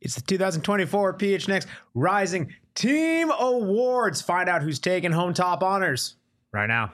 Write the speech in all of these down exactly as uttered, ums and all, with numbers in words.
It's the two thousand twenty-four P H N X Rising Team Awards. Find out who's taking home top honors right now.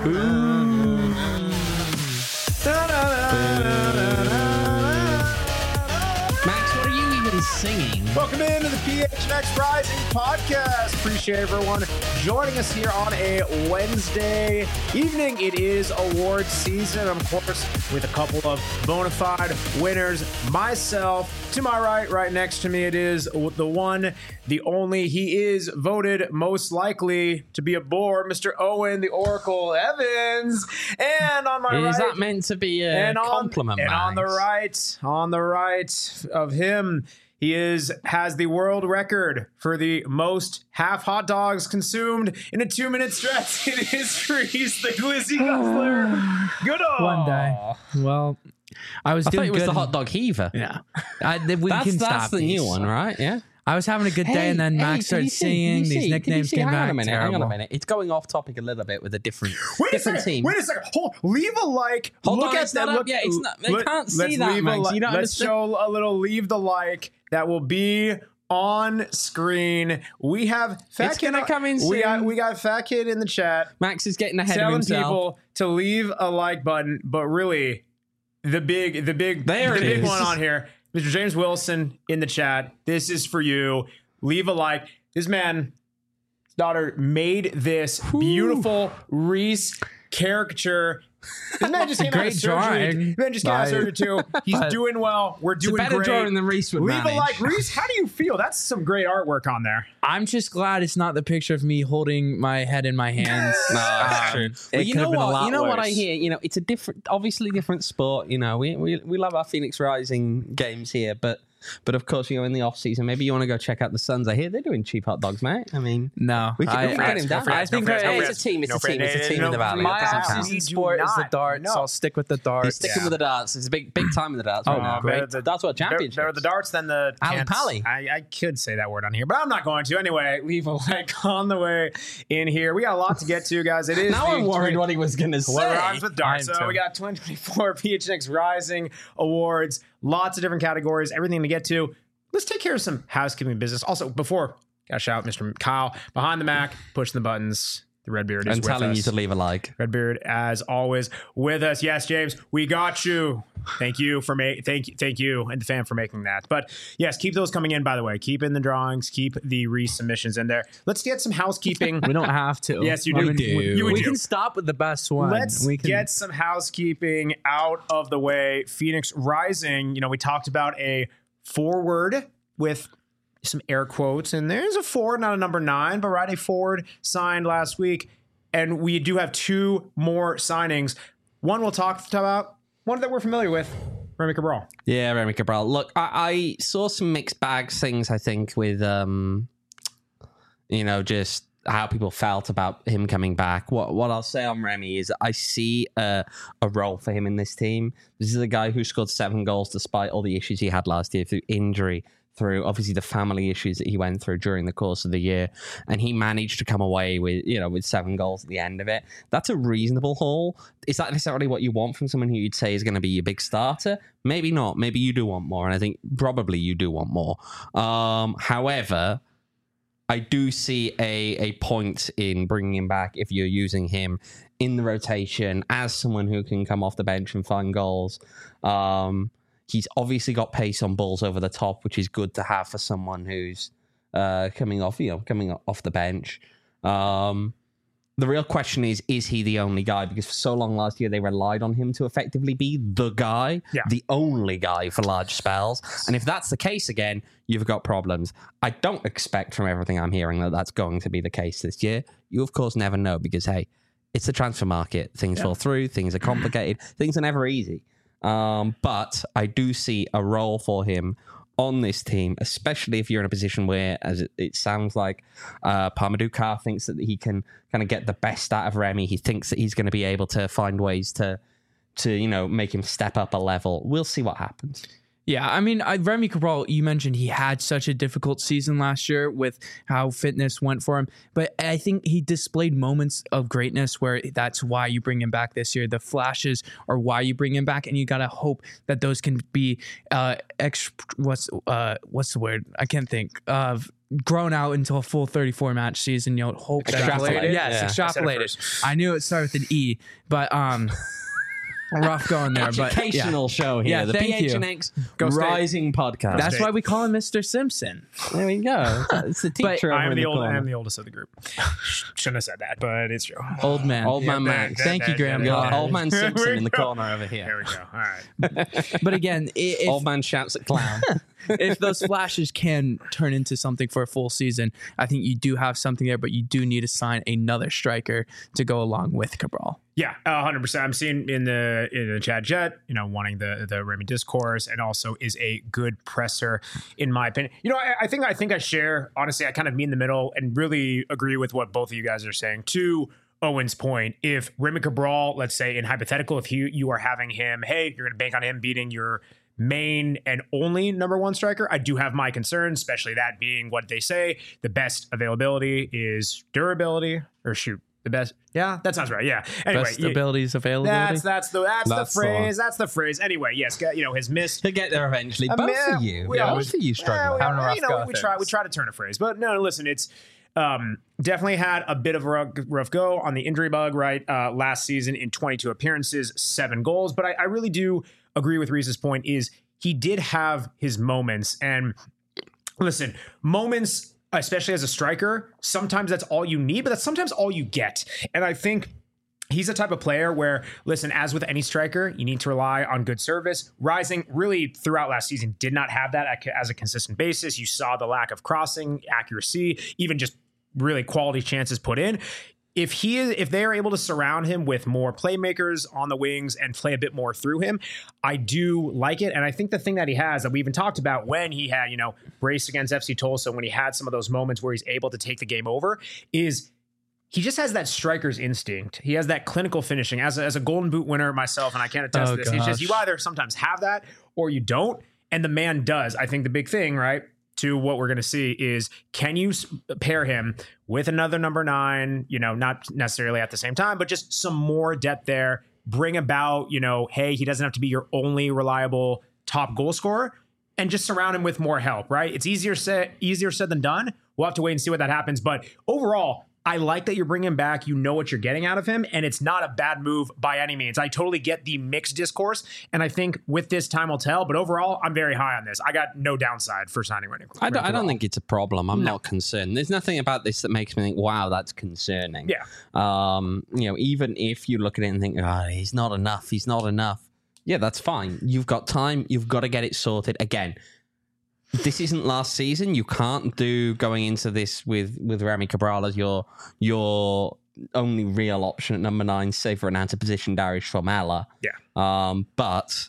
Max, what are you even singing? Welcome into the P H N X Rising podcast. Appreciate everyone joining us here on a Wednesday evening. It is awards season, of course, with a couple of bona fide winners. Myself, to my right, right next to me, it is the one, the only. He is voted most likely to be a bore, Mister Owen, the Oracle Evans. And on my Is right, Is that meant to be a and on, compliment, And Max? on the right, on the right of him, he is has the world record for the most half hot dogs consumed in a two-minute stretch. It is Reese, the Glizzy Guzzler. Good on. One day. Well, I was I thought doing it was good. the hot dog heaver. Yeah. I, th- we That's, can that's stop the these. new one, right? Yeah. I was having a good day, and then Max did you started see- singing. did you These see- nicknames did you see- came hang back. on a minute, Terrible. hang on a minute. It's going off topic a little bit with a different, Wait a different second. team. Wait a second. Hold. Leave a like. Hold look on, at it's that. not Look, up yet. It's not- they let- can't see let's that, leave a Max. li- You don't Let's understand. show a little. Leave the like that will be on screen. We have Fat It's Kid. gonna come in We got soon. we got Fat Kid in the chat. Max is getting ahead of telling himself. people to leave a like button, but really, the big, the big, There the it big is. one on here, Mister James Wilson in the chat. This is for you. Leave a like. This man, his daughter made this beautiful Reese caricature. This man just came out great of surgery. drawing. This man just came out of Bye. surgery too. He's But- doing well. We're It's a doing better great. drawing than Reese would Leave manage. a like, Reese. How do you feel? That's some great artwork on there. I'm just glad it's not the picture of me holding my head in my hands. No, that's Um, true. it Well, you could know have been a what? lot You know what I worse. hear? You know, it's a different, obviously different sport. You know, we we we love our Phoenix Rising games here, but but of course, you know, in the off season, maybe you want to go check out the Suns. I hear they're doing cheap hot dogs, mate. I mean, No, we can, I, we can I, get him down. I think no I- friends, no Hey, friends. it's a team. It's No a team. friends. It's a team in the valley. my That doesn't count. off-season We do sport is the not. darts. No. So I'll stick with the He's darts. sticking Yeah. with the darts. It's a big big time in the darts Oh, right now. great. Better the- That's what better- championships. Better the darts than the Ali cans. Pali. I, I could say that word on here, but I'm not going to. Anyway, leave a like on the way in here. We got a lot to get to, guys. It is Now the I'm worried what he was going to say. What rhymes with darts? I'm So too. we got twenty twenty-four P H N X Rising Awards. Lots of different categories. Everything to get to. Let's take care of some housekeeping business. Also, before, got to shout out Mister Kyle behind the Mac, pushing the buttons. The Redbeard is I'm with telling us. you to leave a like. Redbeard, as always, with us. Yes, James, we got you. Thank you for ma- thank you, thank you, and the fan for making that. But yes, keep those coming in. By the way, keep in the drawings, keep the resubmissions in there. Let's get some housekeeping. We don't have to. Yes, you I do. mean, do. You would we do. can stop with the best one. Let's we can, get some housekeeping out of the way. Phoenix Rising. You know, we talked about a forward with some air quotes, and there's a forward, not a number nine, but right, a forward signed last week. And we do have two more signings. One we'll talk about, one that we're familiar with, Remy Cabral. Yeah, Remy Cabral. Look, I, I saw some mixed bags things, I think, with, um, you know, just how people felt about him coming back. What what I'll say on Remy is I see a, a role for him in this team. This is a guy who scored seven goals despite all the issues he had last year through injury, through obviously the family issues that he went through during the course of the year, and he managed to come away with, you know, with seven goals at the end of it. That's a reasonable haul. Is that necessarily what you want from someone who you'd say is going to be your big starter? Maybe not. Maybe you do want more, and I think probably you do want more. Um, however, I do see a a point in bringing him back if you're using him in the rotation as someone who can come off the bench and find goals. Um, He's obviously got pace on balls over the top, which is good to have for someone who's uh, coming off, you know, coming off the bench. Um, the real question is, is he the only guy? Because for so long last year, they relied on him to effectively be the guy, Yeah. the only guy for large spells. And if that's the case again, you've got problems. I don't expect from everything I'm hearing that that's going to be the case this year. You, of course, never know because, hey, it's the transfer market. Things Yeah. fall through. Things are complicated. Things are never easy. Um, but I do see a role for him on this team, especially if you're in a position where, as it, it sounds like, uh, Parmadou Carr thinks that he can kind of get the best out of Remy. He thinks that he's going to be able to find ways to, to you know, make him step up a level. We'll see what happens. Yeah, I mean, I, Remy Cabral, you mentioned he had such a difficult season last year with how fitness went for him. But I think he displayed moments of greatness where that's why you bring him back this year. The flashes are why you bring him back, and you got to hope that those can be uh, ex- what's uh, what's the word? I can't think of. Grown out into a full thirty-four match season. You know, hope Extrapolated? that yes, Yeah. extrapolated. I, I knew it started with an E, but um. rough going there, but yeah. Educational show here. Yeah, the thank P H you. N X Go State. Rising podcast. That's State. why we call him Mister Simpson. There we go. It's the teacher over I am in the the old, corner. I am the oldest of the group. Shouldn't have said that, but it's true. Old man. Old man Yeah, Max. that- Thank you, that- Grandpa. We got Old man There Simpson we in the go. corner over There here. we go. All right. But again, i- if, Old man shouts at clown. if those flashes can turn into something for a full season, I think you do have something there, but you do need to sign another striker to go along with Cabral. Yeah, one hundred percent. I'm seeing in the in the chat jet, you know, wanting the the Remy discourse, and also is a good presser, in my opinion. You know, I, I think I think I share, honestly, I kind of meet in the middle and really agree with what both of you guys are saying. To Owen's point, if Remy Cabral, let's say in hypothetical, if you you are having him, hey, you're going to bank on him beating your main and only number one striker, I do have my concerns, especially that being what they say. The best availability is durability, or shoot, the best. Yeah, that sounds right. Yeah. Anyway, Best yeah, abilities availability. that's that's the that's, That's the the phrase. That's the phrase. Anyway, yes, you know, his missed. He'll get there eventually. I Both mean, of you. we Both always- of you Yeah, struggle. we, Having a rough you know, go we of try we things. try to turn a phrase, but no, listen, it's um, definitely had a bit of a rough, rough go on the injury bug, right? Uh, last season in twenty-two appearances, seven goals, but I, I really do agree with Reese's point. Is he did have his moments, and listen, moments, especially as a striker, sometimes that's all you need, but that's sometimes all you get, and I think. He's the type of player where, listen, as with any striker, you need to rely on good service. Rising really throughout last season did not have that as a consistent basis. You saw the lack of crossing accuracy, even just really quality chances put in. If he is, if they are able to surround him with more playmakers on the wings and play a bit more through him, I do like it. And I think the thing that he has that we even talked about when he had, you know, brace against F C Tulsa, when he had some of those moments where he's able to take the game over, is he just has that striker's instinct. He has that clinical finishing. As a, as a Golden Boot winner myself, and I can't attest Oh, to this, it's just gosh. you either sometimes have that or you don't. And the man does. I think the big thing, right, to what we're going to see is, can you s- pair him with another number nine, you know, not necessarily at the same time, but just some more depth there, bring about, you know, hey, he doesn't have to be your only reliable top goal scorer, and just surround him with more help, right? It's easier said, easier said than done. We'll have to wait and see what that happens. But overall, I like that you're bringing him back. You know what you're getting out of him, and it's not a bad move by any means. I totally get the mixed discourse, and I think with this time will tell. But overall, I'm very high on this. I got no downside for signing Remy. I don't, I don't think it's a problem. I'm No. not concerned. There's nothing about this that makes me think, wow, that's concerning. Yeah. Um, you know, even if you look at it and think, oh, he's not enough, he's not enough. Yeah, that's fine. You've got time. You've got to get it sorted. Again, this isn't last season. You can't do going into this with, with Remy Cabral as your your only real option at number nine, save for an anti-position Darius Formella. Yeah. Um, but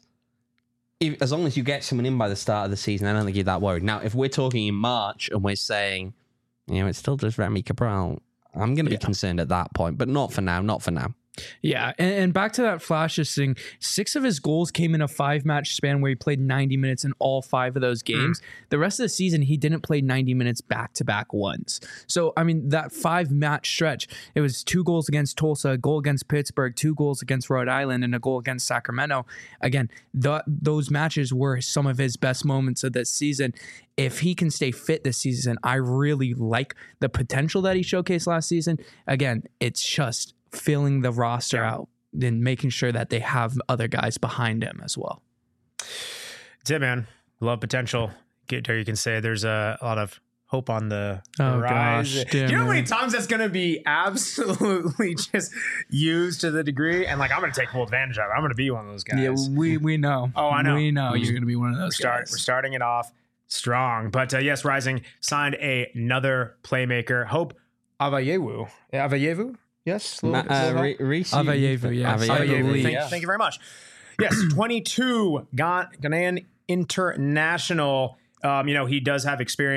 if, as long as you get someone in by the start of the season, I don't think you're that worried. Now, if we're talking in March and we're saying, you know, it's still just Remy Cabral, I'm going to be Yeah. concerned at that point, but not for now, not for now. Yeah, and, and back to that flashes thing. Six of his goals came in a five-match span where he played ninety minutes in all five of those games. Mm. The rest of the season, he didn't play ninety minutes back-to-back once. So, I mean, that five-match stretch, it was two goals against Tulsa, a goal against Pittsburgh, two goals against Rhode Island, and a goal against Sacramento. Again, th- those matches were some of his best moments of this season. If he can stay fit this season, I really like the potential that he showcased last season. Again, it's just filling the roster Yeah. out and making sure that they have other guys behind him as well. That's it, man. Love potential. Get there. You can say there's a, a lot of hope on the Oh, rise. gosh, Do you know how damn many it. times that's going to be absolutely just used to the degree? And like, I'm going to take full advantage of it. I'm going to be one of those guys. Yeah, we we know. Oh, I know. We know Mhm. you're going to be one of those Start, guys. we're starting it off strong. But uh, yes, Rising signed a, another playmaker. Hope Avayewu. Avayewu? Yes. Ma- Little- uh, little- Re- Reece- Avayevu, yes. Avayevu, Avayevu, Thank, yeah. thank you very much. Yes, twenty-two Ghan- Ghanaian international. Um, you know, he does have experience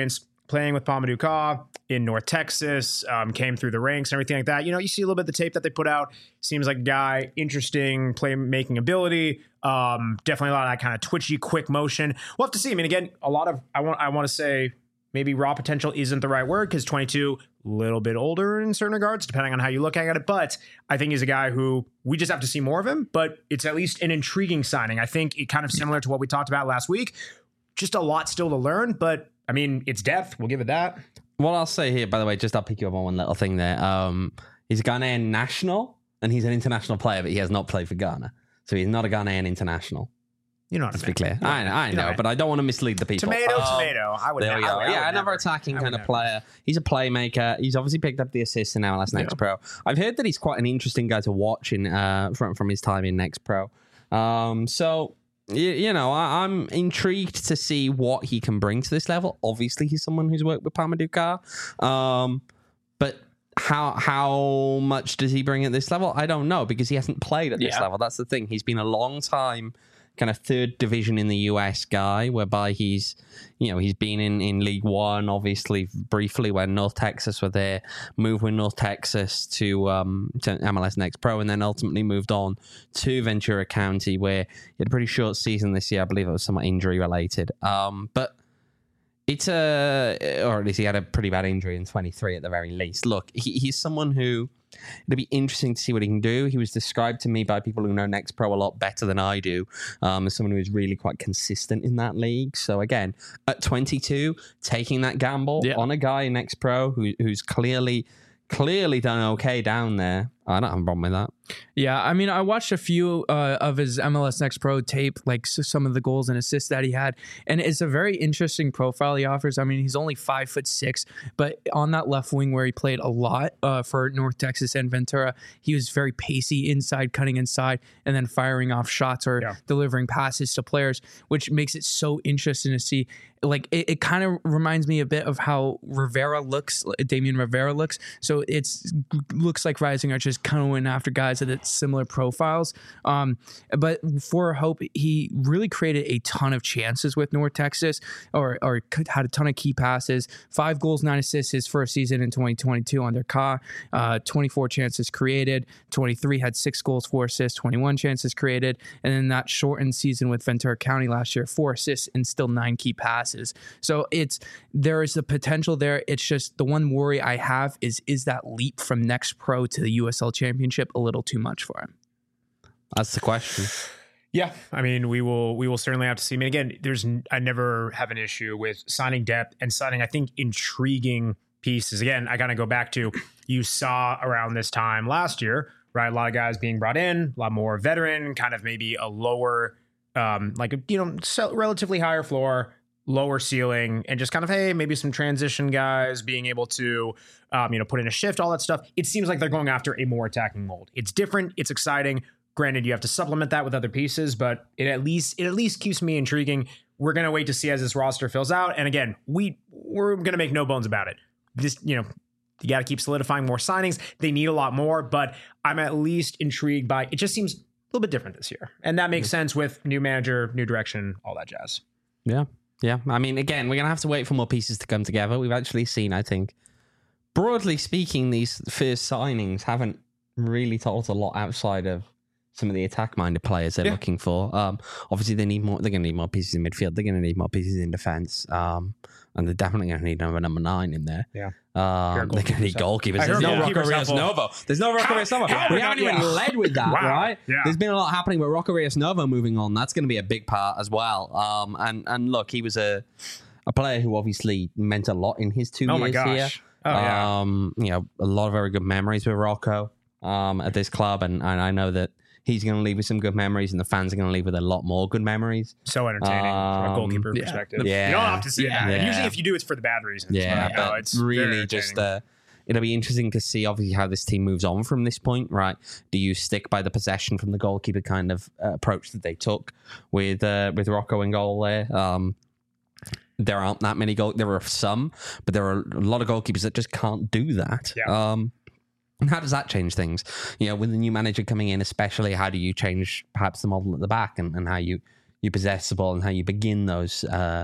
playing with Pamadou in North Texas, um, came through the ranks and everything like that. You know, you see a little bit of the tape that they put out. Seems like a guy, interesting playmaking ability. Um, definitely a lot of that kind of twitchy, quick motion. We'll have to see. I mean, again, a lot of, I want I want to say maybe raw potential isn't the right word because twenty-two, a little bit older in certain regards, depending on how you look at it. But I think he's a guy who we just have to see more of him. But it's at least an intriguing signing. I think it kind of similar to what we talked about last week. Just a lot still to learn, but I mean, it's depth. We'll give it that. What I'll say here, by the way, just I'll pick you up on one little thing there. Um, he's a Ghanaian national, and he's an international player, but he has not played for Ghana. So he's not a Ghanaian international. You know what Let's I mean. be clear. Yeah. I, I know, you know but I don't want to mislead the people. Tomato, Um, tomato. I would There we I go. would- I Yeah, would another never. attacking I kind would of never. player. He's a playmaker. He's obviously picked up the assist in M L S Next Yeah. Pro. I've heard that he's quite an interesting guy to watch in uh, from from his time in Next Pro. Um, so you, you know, I, I'm intrigued to see what he can bring to this level. Obviously, he's someone who's worked with Pamadou Ka. Um, but how how much does he bring at this level? I don't know because he hasn't played at this Yeah. level. That's the thing. He's been a long time kind of third division in the U S guy, whereby he's, you know, he's been in, in League One, obviously briefly when North Texas were there, moved with North Texas to um to M L S Next Pro, and then ultimately moved on to Ventura County, where he had a pretty short season this year. I believe it was somewhat injury related. Um, but it's a, or at least he had a pretty bad injury in twenty-three at the very least. Look, he, he's someone who, it'll be interesting to see what he can do. He was described to me by people who know Next Pro a lot better than I do, um, as someone who is really quite consistent in that league. So again, at twenty-two, taking that gamble Yeah. on a guy in Next Pro who, who's clearly, clearly done okay down there, I don't have a problem with that. Yeah, I mean, I watched a few uh, of his M L S Next Pro tape, like s- some of the goals and assists that he had, and it's a very interesting profile he offers. I mean, he's only five foot six, but on that left wing where he played a lot uh, for North Texas and Ventura, he was very pacey inside, cutting inside, and then firing off shots or Yeah. delivering passes to players, which makes it so interesting to see. Like it, it kind of reminds me a bit of how Rivera looks, Damian Rivera looks. So it's looks like Rising are just kind of went after guys that had similar profiles. Um, but for Hope, he really created a ton of chances with North Texas, or or had a ton of key passes. Five goals, nine assists his first season in twenty twenty-two under Ka. Uh, twenty-four chances created. twenty-three had six goals, four assists, twenty-one chances created, and then that shortened season with Ventura County last year, four assists and still nine key passes. So it's there is the potential there. It's just the one worry I have is is that leap from Next Pro to the U S L Championship a little too much for him? That's the question. Yeah, I mean, we will we will certainly have to see. I mean, again, there's n- I never have an issue with signing depth and signing, I think, intriguing pieces. Again, I gotta go back to you saw around this time last year, right? A lot of guys being brought in, a lot more veteran, kind of maybe a lower, um, like a, you know, so relatively higher floor, lower ceiling, and just kind of, hey, maybe some transition guys being able to, um, you know, put in a shift, all that stuff. It seems like they're going after a more attacking mold. It's different. It's exciting. Granted, you have to supplement that with other pieces, but it at least it at least keeps me intriguing. We're gonna wait to see as this roster fills out. And again, we we're gonna make no bones about it. This, you know, you got to keep solidifying more signings. They need a lot more, but I'm at least intrigued by it. Just seems a little bit different this year, and that makes sense with new manager, new direction, all that jazz. Yeah. Yeah. I mean, again, we're going to have to wait for more pieces to come together. We've actually seen, I think, broadly speaking, these first signings haven't really told us a lot outside of some of the attack-minded players they're Yeah. looking for. Um, obviously, they need more. They're going to need more pieces in midfield. They're going to need more pieces in defense. Um, and they're definitely going to need another number nine in there. Yeah. Um, they're going to need goalkeepers. I There's heard no goalkeepers Rocco Rios helpful. Novo. There's no Rocco Rios Novo. how We we haven't got- even yeah. led with that, Wow. right? Yeah. There's been a lot happening with Rocco Rios Novo moving on. That's going to be a big part as well. Um, and and look, he was a a player who obviously meant a lot in his two Oh years my gosh. here. Oh yeah. Um, you know, a lot of very good memories with Rocco um, at this club, and, and I know that he's going to leave with some good memories, and the fans are going to leave with a lot more good memories. So entertaining from a Um, goalkeeper yeah. perspective. Yeah. You don't have to see Yeah. that. And Yeah. usually, if you do, it's for the bad reasons. Yeah, but, no, but it's very really just entertaining. uh, it'll be interesting to see obviously how this team moves on from this point, right? Do you stick by the possession from the goalkeeper kind of uh, approach that they took with uh, with Rocco in goal there? Um, there aren't that many goal. There are some, but there are a lot of goalkeepers that just can't do that. Yeah. Um, and how does that change things? You know, with the new manager coming in, especially, how do you change perhaps the model at the back and, and how you, you possess the ball and how you begin those uh,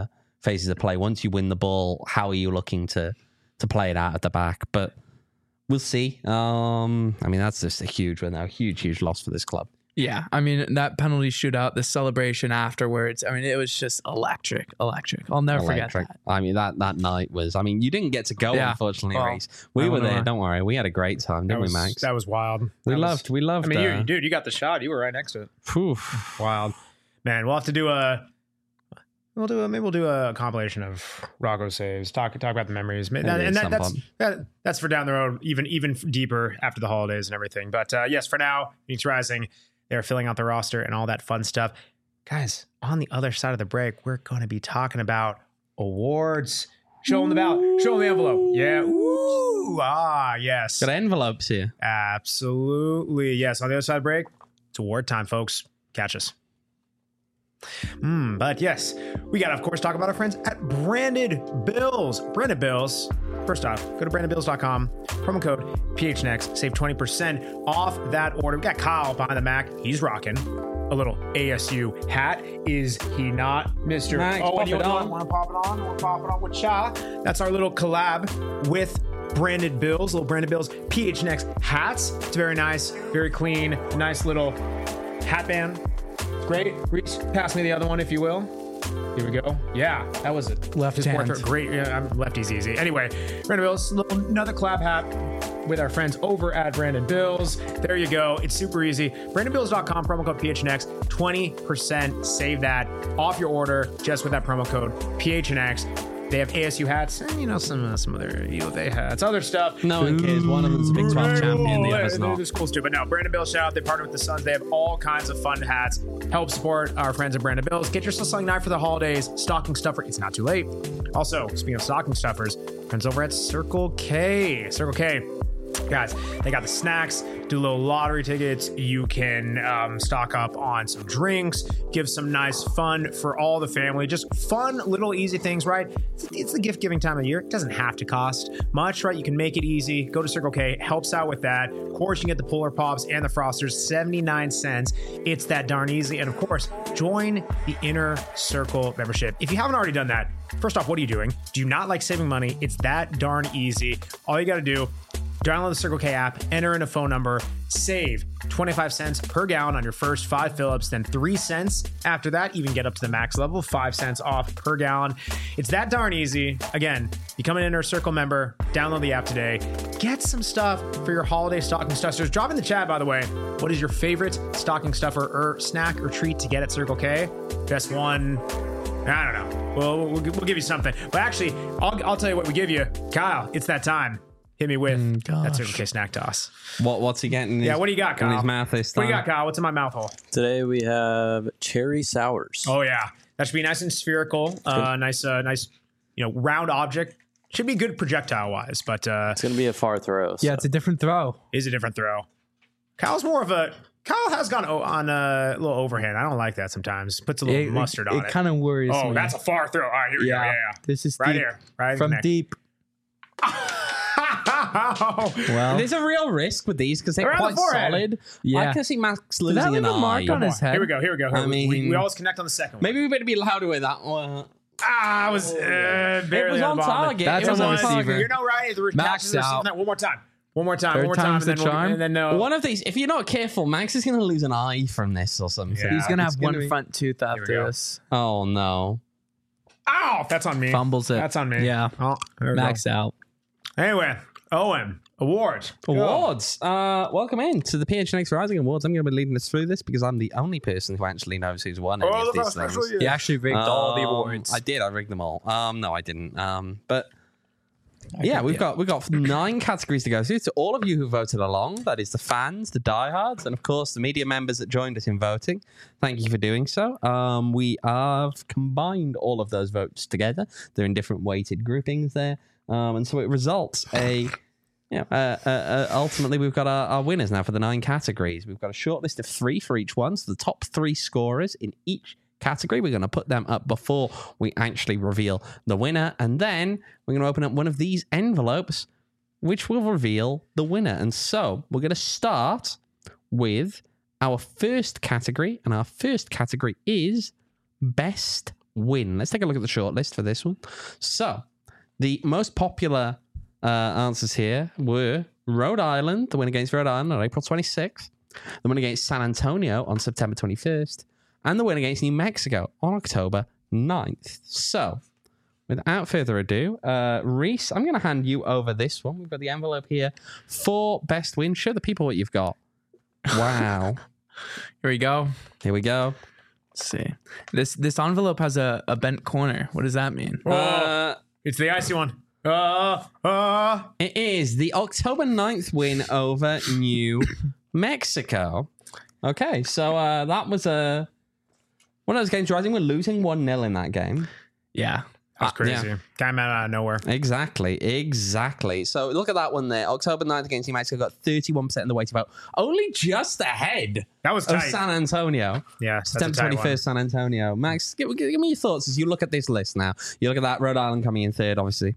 phases of play. Once you win the ball, how are you looking to to play it out at the back? But we'll see. Um, I mean, that's just a huge one now. Huge, huge loss for this club. Yeah, I mean, that penalty shootout, the celebration afterwards, I mean, it was just electric, electric. I'll never Electric. forget I mean, that, that night was, I mean, you didn't get to go, Yeah. unfortunately, Well, Reese. We I were don't there, know. don't worry. We had a great time, That didn't was, we, Max? that was wild. we That was- loved, we loved I mean, uh, you, dude, you got the shot. You were right next to it. phew. Wild, man. We'll have to do a. We'll do a, maybe we'll do a compilation of Rocco saves. Talk talk about the memories, Man, Maybe and at that, some that's point. that, that's for down the road, even even deeper after the holidays and everything. But uh, yes, for now, Phoenix Rising, they're filling out the roster and all that fun stuff, guys. On the other side of the break, we're going to be talking about awards. Show them the ballot. Show them the envelope. Yeah. Ooh. Ah. Yes. Got envelopes here. Absolutely. Yes. On the other side of the break, it's award time, folks. Catch us. Mm, but yes, we got to, of course, talk about our friends at Branded Bills. Branded Bills. First off, go to branded bills dot com, promo code P H N X, save twenty percent off that order. We got Kyle behind the Mac. He's rocking a little A S U hat. Is he not, Mister Max, Oh, pop and you it on. want to pop it on? We're popping on with Cha. That's our little collab with Branded Bills, little Branded Bills P H N X hats. It's very nice, very clean, nice little hat band. Great. Reach, pass me the other one, if you will. Here we go. Yeah, that was it. Left His hand. portrait. Great. Yeah, I'm lefty's easy. Anyway, Brandon Bills, little, another collab hat with our friends over at Brandon Bills. There you go. It's super easy. brandon bills dot com, promo code P H N X, twenty percent. Save that off your order just with that promo code P H N X. They have A S U hats and, you know, some uh, some other U of A hats, other stuff. No one cares. One of them's a Big twelve champion, the other's not. It's cool too. But no, Brandon Bills shout out. They partner with the Suns. They have all kinds of fun hats. Help support our friends at Brandon Bills. Get yourself something nice for the holidays. Stocking stuffer. It's not too late. Also, speaking of stocking stuffers, friends over at Circle K. Circle K. Guys, they got the snacks, do little lottery tickets. You can um, stock up on some drinks, give some nice fun for all the family. Just fun, little easy things, right? It's, it's the gift giving time of year. It doesn't have to cost much, right? You can make it easy. Go to Circle K, helps out with that. Of course, you can get the Polar Pops and the Frosters, seventy-nine cents. It's that darn easy. And of course, join the Inner Circle membership. If you haven't already done that, first off, what are you doing? Do you not like saving money? It's that darn easy. All you got to do, download the Circle K app, enter in a phone number, save twenty-five cents per gallon on your first five fill-ups, then three cents after that, even get up to the max level, five cents off per gallon. It's that darn easy. Again, become an Inner Circle member, download the app today, get some stuff for your holiday stocking stuffers. Drop in the chat, by the way, what is your favorite stocking stuffer or snack or treat to get at Circle K? Best one, I don't know. Well, we'll, we'll give you something. But actually, I'll, I'll tell you what we give you. Kyle, it's that time. Hit me with Mm, that gosh. Circle K snack toss. What What's he getting? In his, Yeah, what do you got, Kyle? In his mouth this What time? do you got, Kyle? What's in my mouth hole? Today we have cherry sours. Oh yeah, that should be nice and spherical. Uh, nice, uh, nice, you know, round object. Should be good projectile wise, but uh, It's going to be a far throw. Yeah, so. it's a different throw. is a different throw. Kyle's more of a. Kyle has gone o- on a little overhand. I don't like that sometimes. Puts a little It, mustard it, on it it. kind of worries oh, me. that's a far throw. All right, here we yeah. go. Yeah, yeah. This is Right deep. here, right from neck. deep. Well, There's a real risk with these because they're Around the quite forehead. solid. Yeah. I can see Max that losing leave an a mark eye. on his head? Here we go. Here we go. I we, we, mean- we always connect on the second one. Maybe we better be louder with that one. Ah, I was uh, barely was on on the bottom. target. That's It on the was receiver. You know, right? The Max catches out. One more time. One more time. Third one more time. time's And the then, we'll, charm. and then uh, One of these, if you're not careful, Max is going to lose an eye from this or something. Yeah. he's gonna It's have one be- front tooth we after go. this. Oh no! Ow! That's on me. Fumbles it. That's on me. Yeah. Oh, there we go. Max out. Anyway, Owen, awards. Go. Awards. Uh, welcome in to the P H N X Rising Awards. I'm going to be leading us through this because I'm the only person who actually knows who's won any Oh, of the these first things. special year. He actually rigged all the Um, awards. I did. I rigged them all. Um, no, I didn't. Um, but yeah, we've got we've got nine categories to go through. To all of you who voted along, that is the fans, the diehards, and of course the media members that joined us in voting. Thank you for doing so. Um, we have combined all of those votes together. They're in different weighted groupings there, um, and so it results a. Yeah. Uh, uh, uh, ultimately, we've got our, our winners now for the nine categories. We've got a short list of three for each one. So the top three scorers in each category, we're going to put them up before we actually reveal the winner. And then we're going to open up one of these envelopes, which will reveal the winner. And so we're going to start with our first category. And our first category is Best win. Let's take a look at the shortlist for this one. So, the most popular uh, answers here were Rhode Island, the win against Rhode Island on April twenty-sixth, the win against San Antonio on September twenty-first, and the win against New Mexico on October ninth. So, without further ado, uh, Reese, I'm going to hand you over this one. We've got the envelope here for best win. Show the people what you've got. Wow. Here we go. Here we go. Let's see. This this envelope has a, a bent corner. What does that mean? Uh, It's the icy one. Uh, uh. it is the October ninth win over New Mexico. Okay, so uh, that was a one of those games where I think we're losing one nil in that game. Yeah. That's crazy. yeah. Came out of nowhere. Exactly, exactly. So look at that one there. October ninth against New Mexico got thirty-one percent of the weighted vote. Only just ahead That was of tight. San Antonio. Yeah, that's a September tight one. twenty-first, San Antonio. Max, give, give me your thoughts as you look at this list now. You look at that, Rhode Island coming in third, obviously.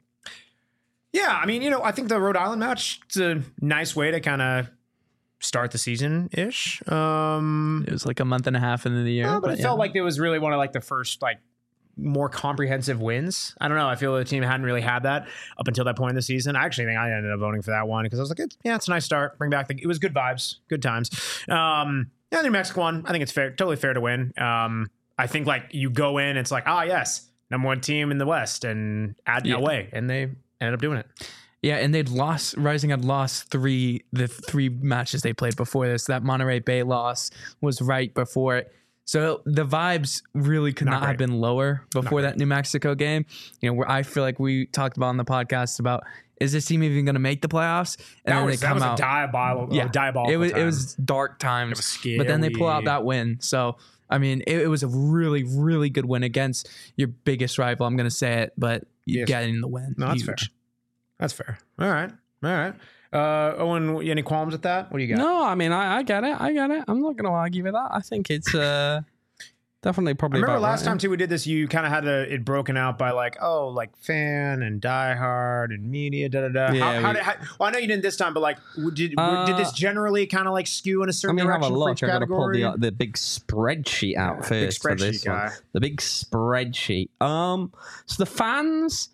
Yeah, I mean, you know, I think the Rhode Island match is a nice way to kind of start the season-ish. Um, It was like a month and a half into the year. uh, but it yeah. felt like it was really one of like the first like more comprehensive wins. I don't know. I feel the team hadn't really had that up until that point in the season. I actually think I ended up voting for that one because I was like, it's, yeah, it's a nice start. Bring back the. It was good vibes, good times. Um, yeah, the New Mexico one, I think it's fair, totally fair to win. Um, I think like you go in, it's like, ah, yes, number one team in the West, and add Yeah. away, and they ended up doing it. Yeah, and they'd lost. Rising had lost three the three matches they played before this. That Monterey Bay loss was right before it. So the vibes really could Not not, great. have been lower before that New Mexico game. You know, where I feel like we talked about on the podcast about is this team even going to make the playoffs? And That then was, they that come was out. a diabolical, yeah, diabolical it was time. it was dark times. It was scary. But then they pull out that win. So I mean, it, it was a really really good win against your biggest rival. I'm going to say it, but you Yes. getting the win. No, that's Huge. fair. That's fair. All right. All right. Uh, Owen, any qualms with that? What do you got? No, I mean, I, I get it. I get it. I'm not going to argue with that. I think it's uh, definitely I probably remember about last right. time too we did this. You kind of had a, it broken out by like, oh, like fan and diehard and media. Da da da. Yeah, how, how we- did? How, well, I know you didn't this time, but like, w- did w- did this Uh, generally kind of like skew in a I certain mean, have a direction for look. each I've got to pull category? the, the big spreadsheet out Yeah, first big for this spreadsheet one. guy. The big spreadsheet. Um, so the fans,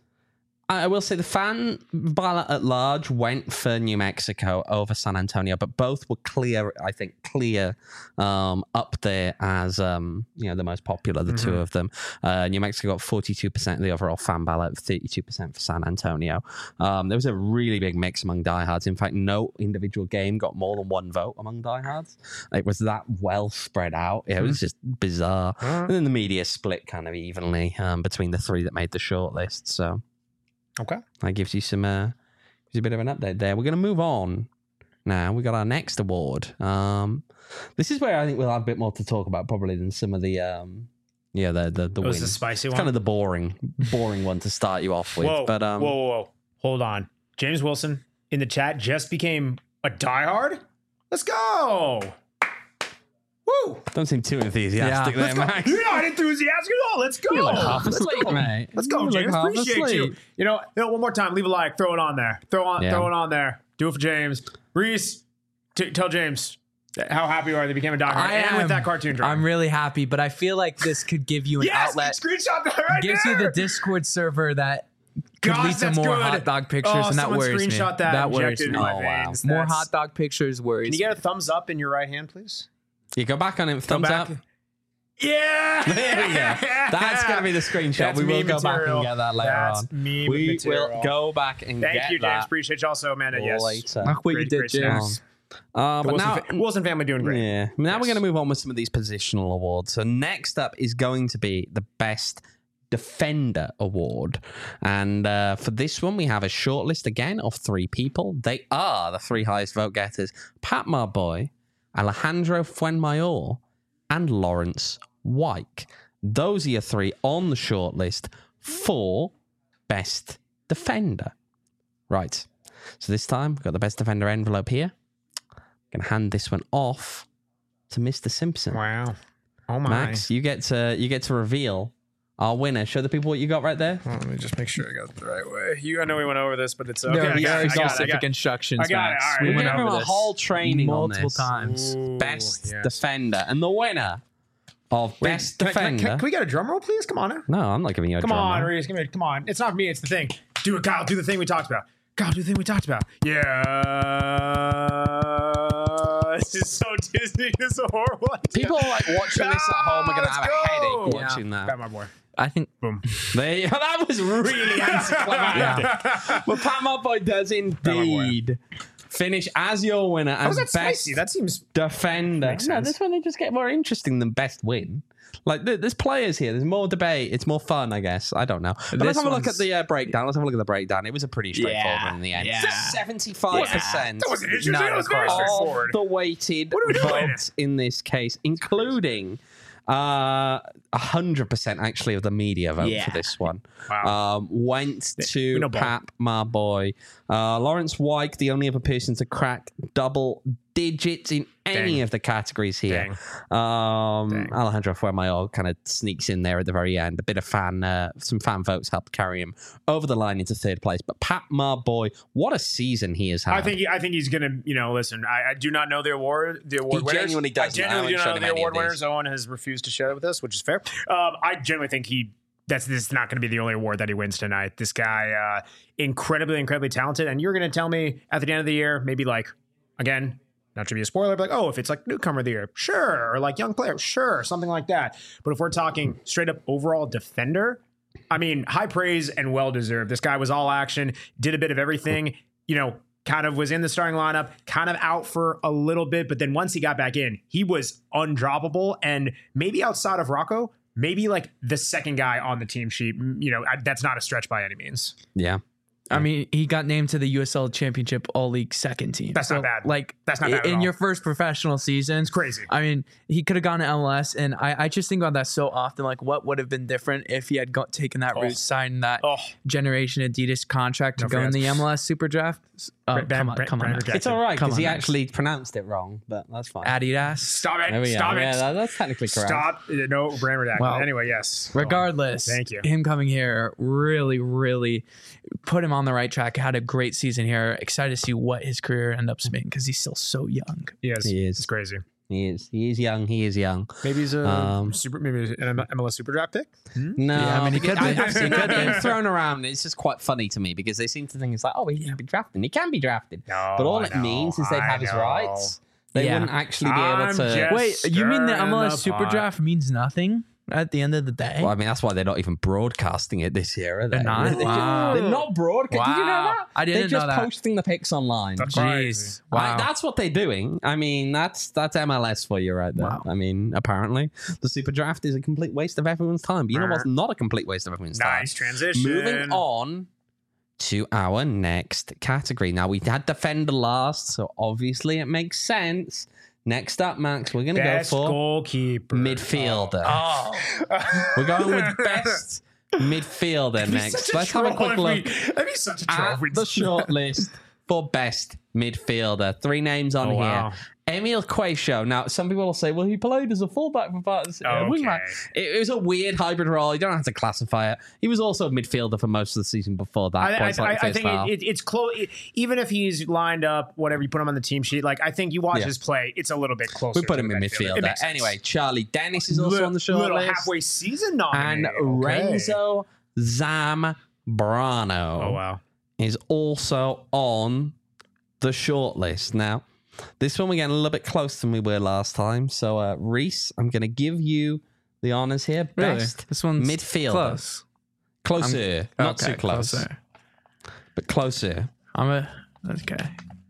I will say the fan ballot at large went for New Mexico over San Antonio, but both were clear, I think, clear um, up there as, um, you know, the most popular, the two Mhm. of them. Uh, New Mexico got forty-two percent of the overall fan ballot, thirty-two percent for San Antonio. Um, there was a really big mix among diehards. In fact, no individual game got more than one vote among diehards. It was that well spread out. It was just bizarre. Huh? And then the media split kind of evenly um, between the three that made the shortlist. So Okay. that gives you some, uh, gives you a bit of an update there. We're going to move on now. We got our next award. Um, this is where I think we'll have a bit more to talk about probably than some of the, um, yeah, the the the It was wins. the spicy It's one. kind of the boring, boring one to start you off with. whoa, but um, whoa, whoa, whoa! Hold on. James Wilson in the chat just became a diehard. Let's go. Woo! don't seem too enthusiastic Yeah. there, Let's go. Max. You're not enthusiastic at all. Let's go. You're like half Let's asleep, go. mate. Let's go, You're like James. half Appreciate you. asleep. You know, you know, one more time. Leave a like. Throw it on there. Throw on. Yeah. Throw it on there. Do it for James. Reese, t- tell James how happy you are they became a diehard I and am. with that cartoon drawing. I'm really happy, but I feel like this could give you an yes, outlet. screenshot that right Gives there. you the Discord server that could Gosh, lead to that's more good. hot dog pictures, Oh, and that someone worries me. screenshot that, That and worries injected it me. in my Oh, wow. veins. More That's- hot dog pictures worries. Can you get a thumbs up in your right hand, please? You go back on it. Go Thumbs back. up. Yeah. There we go. That's going to be the screenshot. That's we will meme go back material. and get that later That's on. meme We material. will go back and Thank get you, James. that Appreciate you also, Amanda. Yes. later. Look what you Great- did, great James. stuff. Uh, The but Wilson, now, fa- Wilson family doing great. yeah. Now Yes. we're going to move on with some of these positional awards. So next up is going to be the best defender award, and uh, for this one we have a shortlist again of three people. They are the three highest vote getters: Pat Marboy, Alejandro Fuenmayor, and Lawrence Wyke. Those are your three on the shortlist for best defender. Right. So this time we've got the best defender envelope here. I'm gonna hand this one off to Mister Simpson. Wow. Oh my. Max, you get to you get to reveal our winner. Show the people what you got right there. Well, let me just make sure I got it the right way. You, I know we went over this, but it's okay. There I are got it, very I got it, I specific got it. instructions, I got it. Max. All right. We We're went gonna give over him a this whole training on multiple this. times. Ooh, Best yes. defender, and the winner of best Can, I- can, I- defender. can, can we get a drum roll, please? Come on. no, I'm not giving you a Come drum on, roll. Reese. Give me, come on. It's not me. It's the thing. Do it, Kyle. Do the thing we talked about. Kyle, do the thing we talked about. Yeah. This is so Disney. This is a horrible idea. People are like watching this at home are going to Let's have go. a headache Yeah. watching that. Pat, my boy. I think Boom. They, that was really anticlimactic. But Pat My Boy does indeed finish as your winner, How as is that best spicy? That seems. defender. Makes No, sense. this one they just get more interesting than best win. Like th- there's players here. There's more debate. It's more fun, I guess. I don't know. But let's This have a look one's- at the uh, breakdown. Let's have a look at the breakdown. It was a pretty straightforward Yeah, one in the end. yeah. Seventy-five percent. That wasn't interesting. Not That was very across. Of straightforward. the weighted What are we doing? votes in this case, including uh, one hundred percent actually of the media vote Yeah. for this one, Wow. um, went We to know ball. Pap, my boy. Uh, Lawrence Wyke, the only other person to crack double digits in any Dang. of the categories here. Dang. Um, Dang. Alejandro Fuenmayor kind of sneaks in there at the very end. A bit of fan, uh, some fan votes helped carry him over the line into third place. But Pat, my boy, what a season he has had. I think he, I think he's gonna, you know, listen. I, I do not know the award, the award He winners. genuinely doesn't. I I genuinely do haven't not know shown the him any award of these. winners. Owen has refused to share it with us, which is fair. Um, I genuinely think he. That's this is not going to be the only award that he wins tonight. This guy, uh, incredibly, incredibly talented. And you're going to tell me at the end of the year, maybe like, again, not to be a spoiler, but like, oh, if it's like newcomer of the year, sure, or like young player, sure, something like that. But if we're talking straight up overall defender, I mean, high praise and well deserved. This guy was all action, did a bit of everything, you know, kind of was in the starting lineup, kind of out for a little bit. But then once he got back in, he was undroppable. And maybe outside of Rocco, maybe like the second guy on the team sheet. You know, I, that's not a stretch by any means. yeah. I mean, he got named to the U S L Championship All League second team. That's not bad. Like, That's not bad at in all. your first professional season. It's crazy. I mean, he could have gone to M L S, and I, I just think about that so often. Like, what would have been different if he had got, taken that Oh. route, signed that Oh. Generation Adidas contract to No go in offense. the M L S Super Draft? Oh, Brand- come on, brand- come on. brand now. It's all right Come because he on, Max. actually pronounced it wrong, but that's fine. Adidas. Stop it. There we Stop are. it. Yeah, that- that's technically correct. Stop. Uh, No, brand redacted. Well, anyway, yes. Go on. Regardless, Thank you. him coming here really, really put him on the right track. Had a great season here. Excited to see what his career end up being because he's still so young. Yes, He is. It's crazy. He is. He is young. He is young. Maybe he's a Um, super. Maybe he's an M L S super draft pick. No, Yeah, I mean, he because could be. I- I've seen He could that being be. thrown around. It's just quite funny to me because they seem to think it's like, oh, he can be drafted. He can be drafted, No, but all I it know, means is they'd I have his know. rites. They Yeah. wouldn't actually be able I'm to. just- Wait, you mean the Stirring M L S the Super pot. Draft means nothing at the end of the day? Well, I mean, that's why they're not even broadcasting it this year, are they? They're not? They're, just- Wow. they're not broadcasting. Did you know Wow. that? I didn't They're just know that. posting the pics online. That's Jeez. crazy. Wow. Like, that's what they're doing. I mean, that's that's M L S for you right there. Wow. I mean, apparently, the Super Draft is a complete waste of everyone's time. But you know what's not a complete waste of everyone's time? Nice transition. Moving on to our next category. Now, we had defender last, so obviously it makes sense. Next up, Max, we're going to go Best for goalkeeper. midfielder. Oh. We're going with best midfielder That'd be next. such a Let's have a troll quick if look we- That'd be such a at troll. if we- the short list for best midfielder. Three names on Oh, here. wow. Emil Quayshow. Now, some people will say, well, he played as a fullback for part of the uh, Okay. wingback. It, it was a weird hybrid role. You don't have to classify it. He was also a midfielder for most of the season before that. I, I, points like I, the I first think half. it, it, it's close. It, even if he's lined up, whatever you put him on the team sheet, like I think you watch Yeah. his play, it's a little bit closer. we put to him the in midfielder. It midfielder. makes sense. Anyway, Charlie Dennis is also Li- on the short little list. halfway season And nominee. Okay. Renzo Zambrano Oh wow. is also on the short list. Now, this one we're getting a little bit closer than we were last time. So, uh, Reese, I'm going to give you the honors here. Really? Best This one's midfielder. close. Closer. Not Okay, too close, closer. but closer. I'm a okay.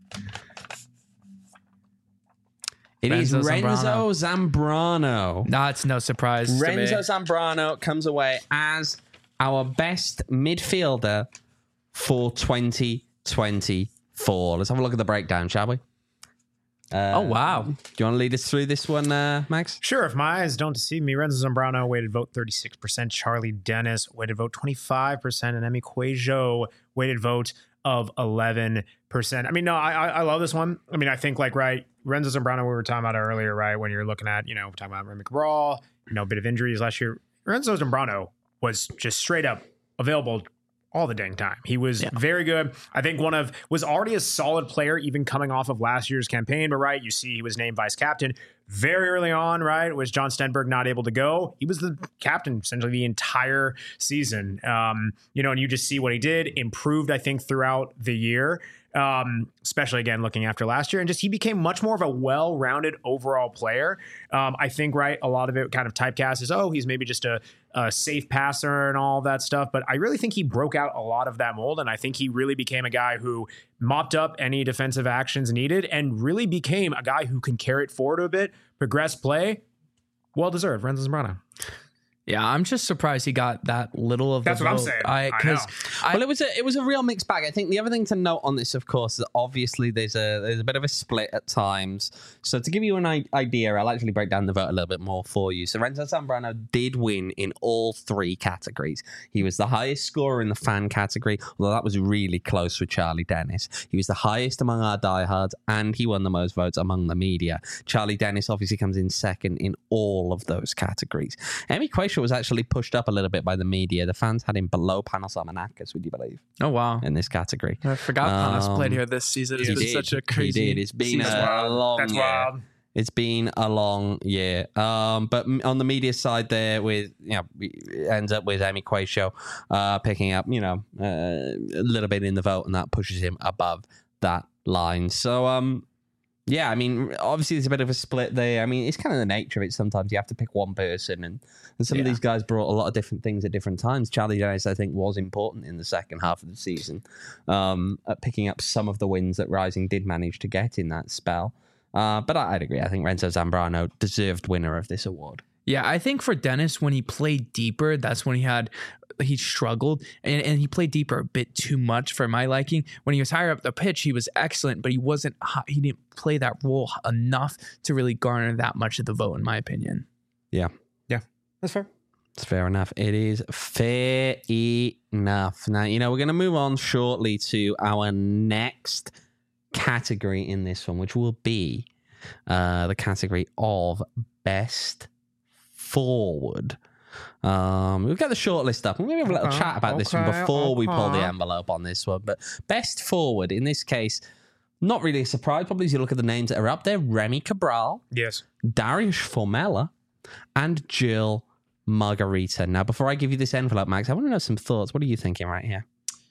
It is Renzo Renzo Zambrano. No, it's no surprise. to me. Renzo Zambrano comes away as our best midfielder for twenty twenty-four. Let's have a look at the breakdown, shall we? Uh, Oh wow. Do you want to lead us through this one, uh, Max? Sure, if my eyes don't deceive me, Renzo Zambrano weighted vote thirty-six percent, Charlie Dennis weighted vote twenty-five percent, and Emi Quajo weighted vote of eleven percent. I mean, no, I, I I love this one. I mean, I think like, right, Renzo Zambrano, we were talking about earlier, right, when you're looking at, you know, talking about Remy Cabral, you know, a bit of injuries last year. Renzo Zambrano was just straight up available all the dang time. He was very good. I think one of was already a solid player even coming off of last year's campaign, but right, you see he was named vice captain. very early on, right, was John Stenberg not able to go. He was the captain essentially the entire season. Um, you know, and you just see what he did, improved, I think, throughout the year. Um, especially again, looking after last year, and just he became much more of a well-rounded overall player. Um, I think, right, a lot of it kind of typecast is, oh, he's maybe just a, a safe passer and all that stuff. But I really think he broke out a lot of that mold. And I think he really became a guy who mopped up any defensive actions needed and really became a guy who can carry it forward a bit, progress play. Well-deserved, Renzo Zambrano. Yeah, I'm just surprised he got that little of That's the what I'm vote. saying. I, I cause know. I, Well, it was a it was a real mixed bag. I think the other thing to note on this, of course, is that obviously there's a there's a bit of a split at times. So to give you an i- idea, I'll actually break down the vote a little bit more for you. So Renzo Zambrano did win in all three categories. He was the highest scorer in the fan category, although that was really close with Charlie Dennis. He was the highest among our diehards, and he won the most votes among the media. Charlie Dennis obviously comes in second in all of those categories. Emi Quayshaw was actually pushed up a little bit by the media. The fans had him below Panos Armenakis, would you believe, oh, wow. in this category. I forgot Panos Um, played here this season. It's He been did. such a He crazy did. It's been season. a long That's year. wild. It's been a long year. Um, but m- on the media side there, with, you know, it ends up with Emi Quayshaw uh, picking up, you know, uh, a little bit in the vote, and that pushes him above that line. So, um, yeah, I mean, obviously there's a bit of a split there. I mean, it's kind of the nature of it. Sometimes you have to pick one person, and, and some of Yeah. these guys brought a lot of different things at different times. Charlie Dennis, I think, was important in the second half of the season um, at picking up some of the wins that Rising did manage to get in that spell. Uh, but I, I'd agree. I think Renzo Zambrano deserved winner of this award. Yeah, I think for Dennis, when he played deeper, that's when he had he struggled, and, and he played deeper a bit too much for my liking. When he was higher up the pitch, he was excellent, but he wasn't hi- he didn't play that role enough to really garner that much of the vote, in my opinion. Yeah. Yeah, that's fair. It's fair enough. It is fair enough. Now, you know, we're going to move on shortly to our next category in this one, which will be uh, the category of best forward. Um, we've got the shortlist up. We're going to have a little Okay, chat about this one okay, before we pull the okay. envelope on this one. But best forward, in this case, not really a surprise, probably as you look at the names that are up there. Remy Cabral, Yes. Darius Formella, and Jill Margarita. Now, before I give you this envelope, Max, I want to know some thoughts. What are you thinking right here?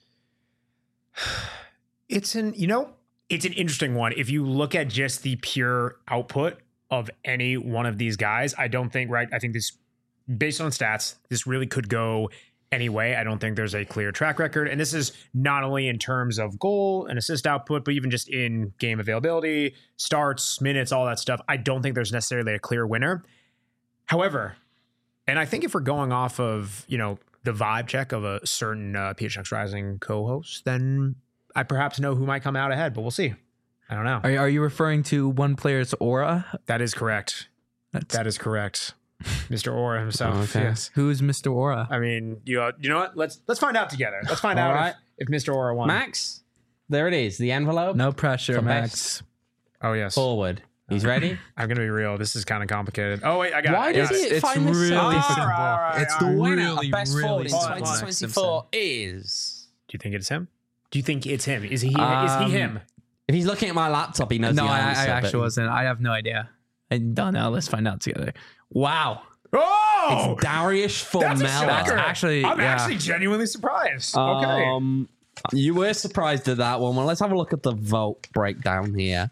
It's an, you know, it's an interesting one. If you look at just the pure output of any one of these guys, I don't think, right, I think this, based on stats, this really could go any way. I don't think there's a clear track record. And this is not only in terms of goal and assist output, but even just in game availability, starts, minutes, all that stuff. I don't think there's necessarily a clear winner. However, and I think if we're going off of, you know, the vibe check of a certain uh, P H X Rising co-host, then I perhaps know who might come out ahead, but we'll see. I don't know. Are, are you referring to one player's aura? That is correct. That's, That is correct. Mister Aura himself. Okay. Yes. who is Mister Aura? I mean, you uh, you know what? Let's let's find out together. Let's find All out right. if, if Mister Aura won. Max, there it is. The envelope. No pressure, For Max. best. Oh yes. Forward. He's ready? I'm gonna be real. This is kind of complicated. Oh wait, I got Why it. I does got he it. It's find this really so All simple. right, all right, It's all The right. winner really, of best really forward in simple, twenty twenty-four is... Do you think it's him? Do you think it's him? Is he? is Um, he him? If he's looking at my laptop, he knows No, the I, answer. I actually but wasn't. I have no idea. I don't know. Let's find out together. Wow. Oh, It's Darius that's a Formella. shocker. That's actually- I'm yeah. actually genuinely surprised. Okay. Um, you were surprised at that one. Well, let's have a look at the vote breakdown here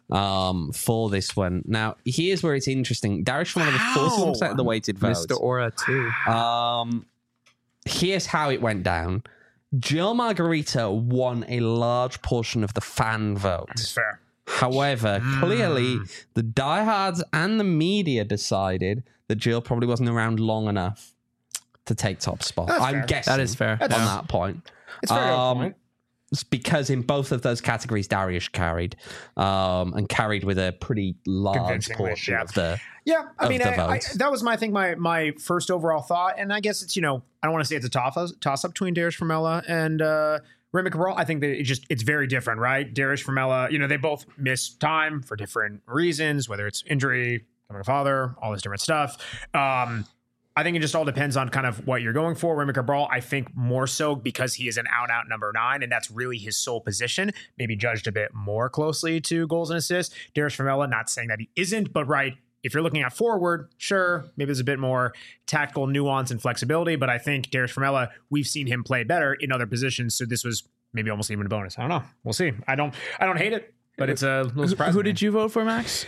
um, for this one. Now, here's where it's interesting. Darius Formella was forty-one percent of the weighted votes. Mister Aura, too. Um, here's how it went down. Jill Margarita won a large portion of the fan vote. It's fair. However, clearly the diehards and the media decided that Jill probably wasn't around long enough to take top spot. That's I'm fair. guessing That is fair. on That's- that point. It's fair. to a Um, point. It's because in both of those categories, Darius carried um, and carried with a pretty large Convincingly, portion yeah. of the. Yeah, I of mean, the I, I, votes. that was my I think my my first overall thought, and I guess it's you know I don't want to say it's a toss toss up between Darius Formella and uh, Remy Cabral. I think that it just it's very different, right? Darius Formella, you know, they both miss time for different reasons, whether it's injury, becoming a father, all this different stuff. Um, I think it just all depends on kind of what you're going for. Remy Cabral, I think more so because he is an out and out number nine, and that's really his sole position, maybe judged a bit more closely to goals and assists. Darius Formella, not saying that he isn't, but right, if you're looking at forward, sure, maybe there's a bit more tactical nuance and flexibility, but I think Darius Formella, we've seen him play better in other positions, so this was maybe almost even a bonus. I don't know. We'll see. I don't I don't hate it, but it's a little surprising. Who, who did you vote for, Max?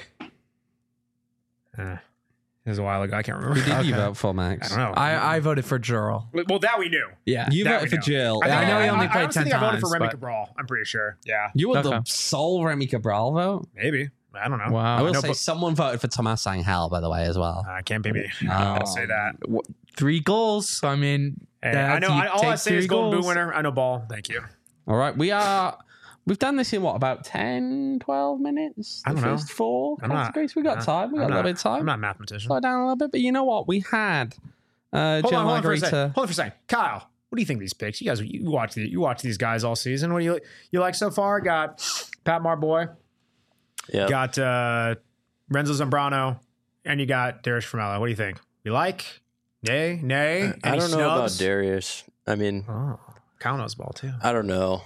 Uh, it was a while ago. I can't remember. Who did you Okay. vote for, Max? I don't know. I, I voted for Jurl. well, that we knew. Yeah. You That voted we for know. Jill. I, think I know he only I, played I honestly ten think I voted for times, Remy but- Cabral. I'm pretty sure. Yeah, You were Okay. the sole Remy Cabral vote. maybe. I don't know. Wow. I will know, say but- someone voted for Thomas Sanghel, by the way, as well. Uh, can't be me. Um, I'll say that. Three goals. So, I mean, Hey, that I know. you I, all I take say is three Golden Boot goals. winner. I know ball. Thank you. All right, we are. We've done this in what, about ten, twelve minutes? I The don't know. first four I'm not- categories. We got uh, time. We got I'm a little not- bit of time. I'm not a mathematician. Slow down a little bit, but you know what? We had uh, Hold Jill on, hold on for a second. Margarita. Hold on for a second. Kyle, what do you think of these picks? You guys, you watch the, you watch these guys all season. What do you you like so far? Got Pat Marboy, Yeah. got uh, Renzo Zambrano, and you got Darius Formella. What do you think? You like? Nay, nay. I Any don't know about snubs? Darius. I mean, Oh, Kyle knows ball too. I don't know.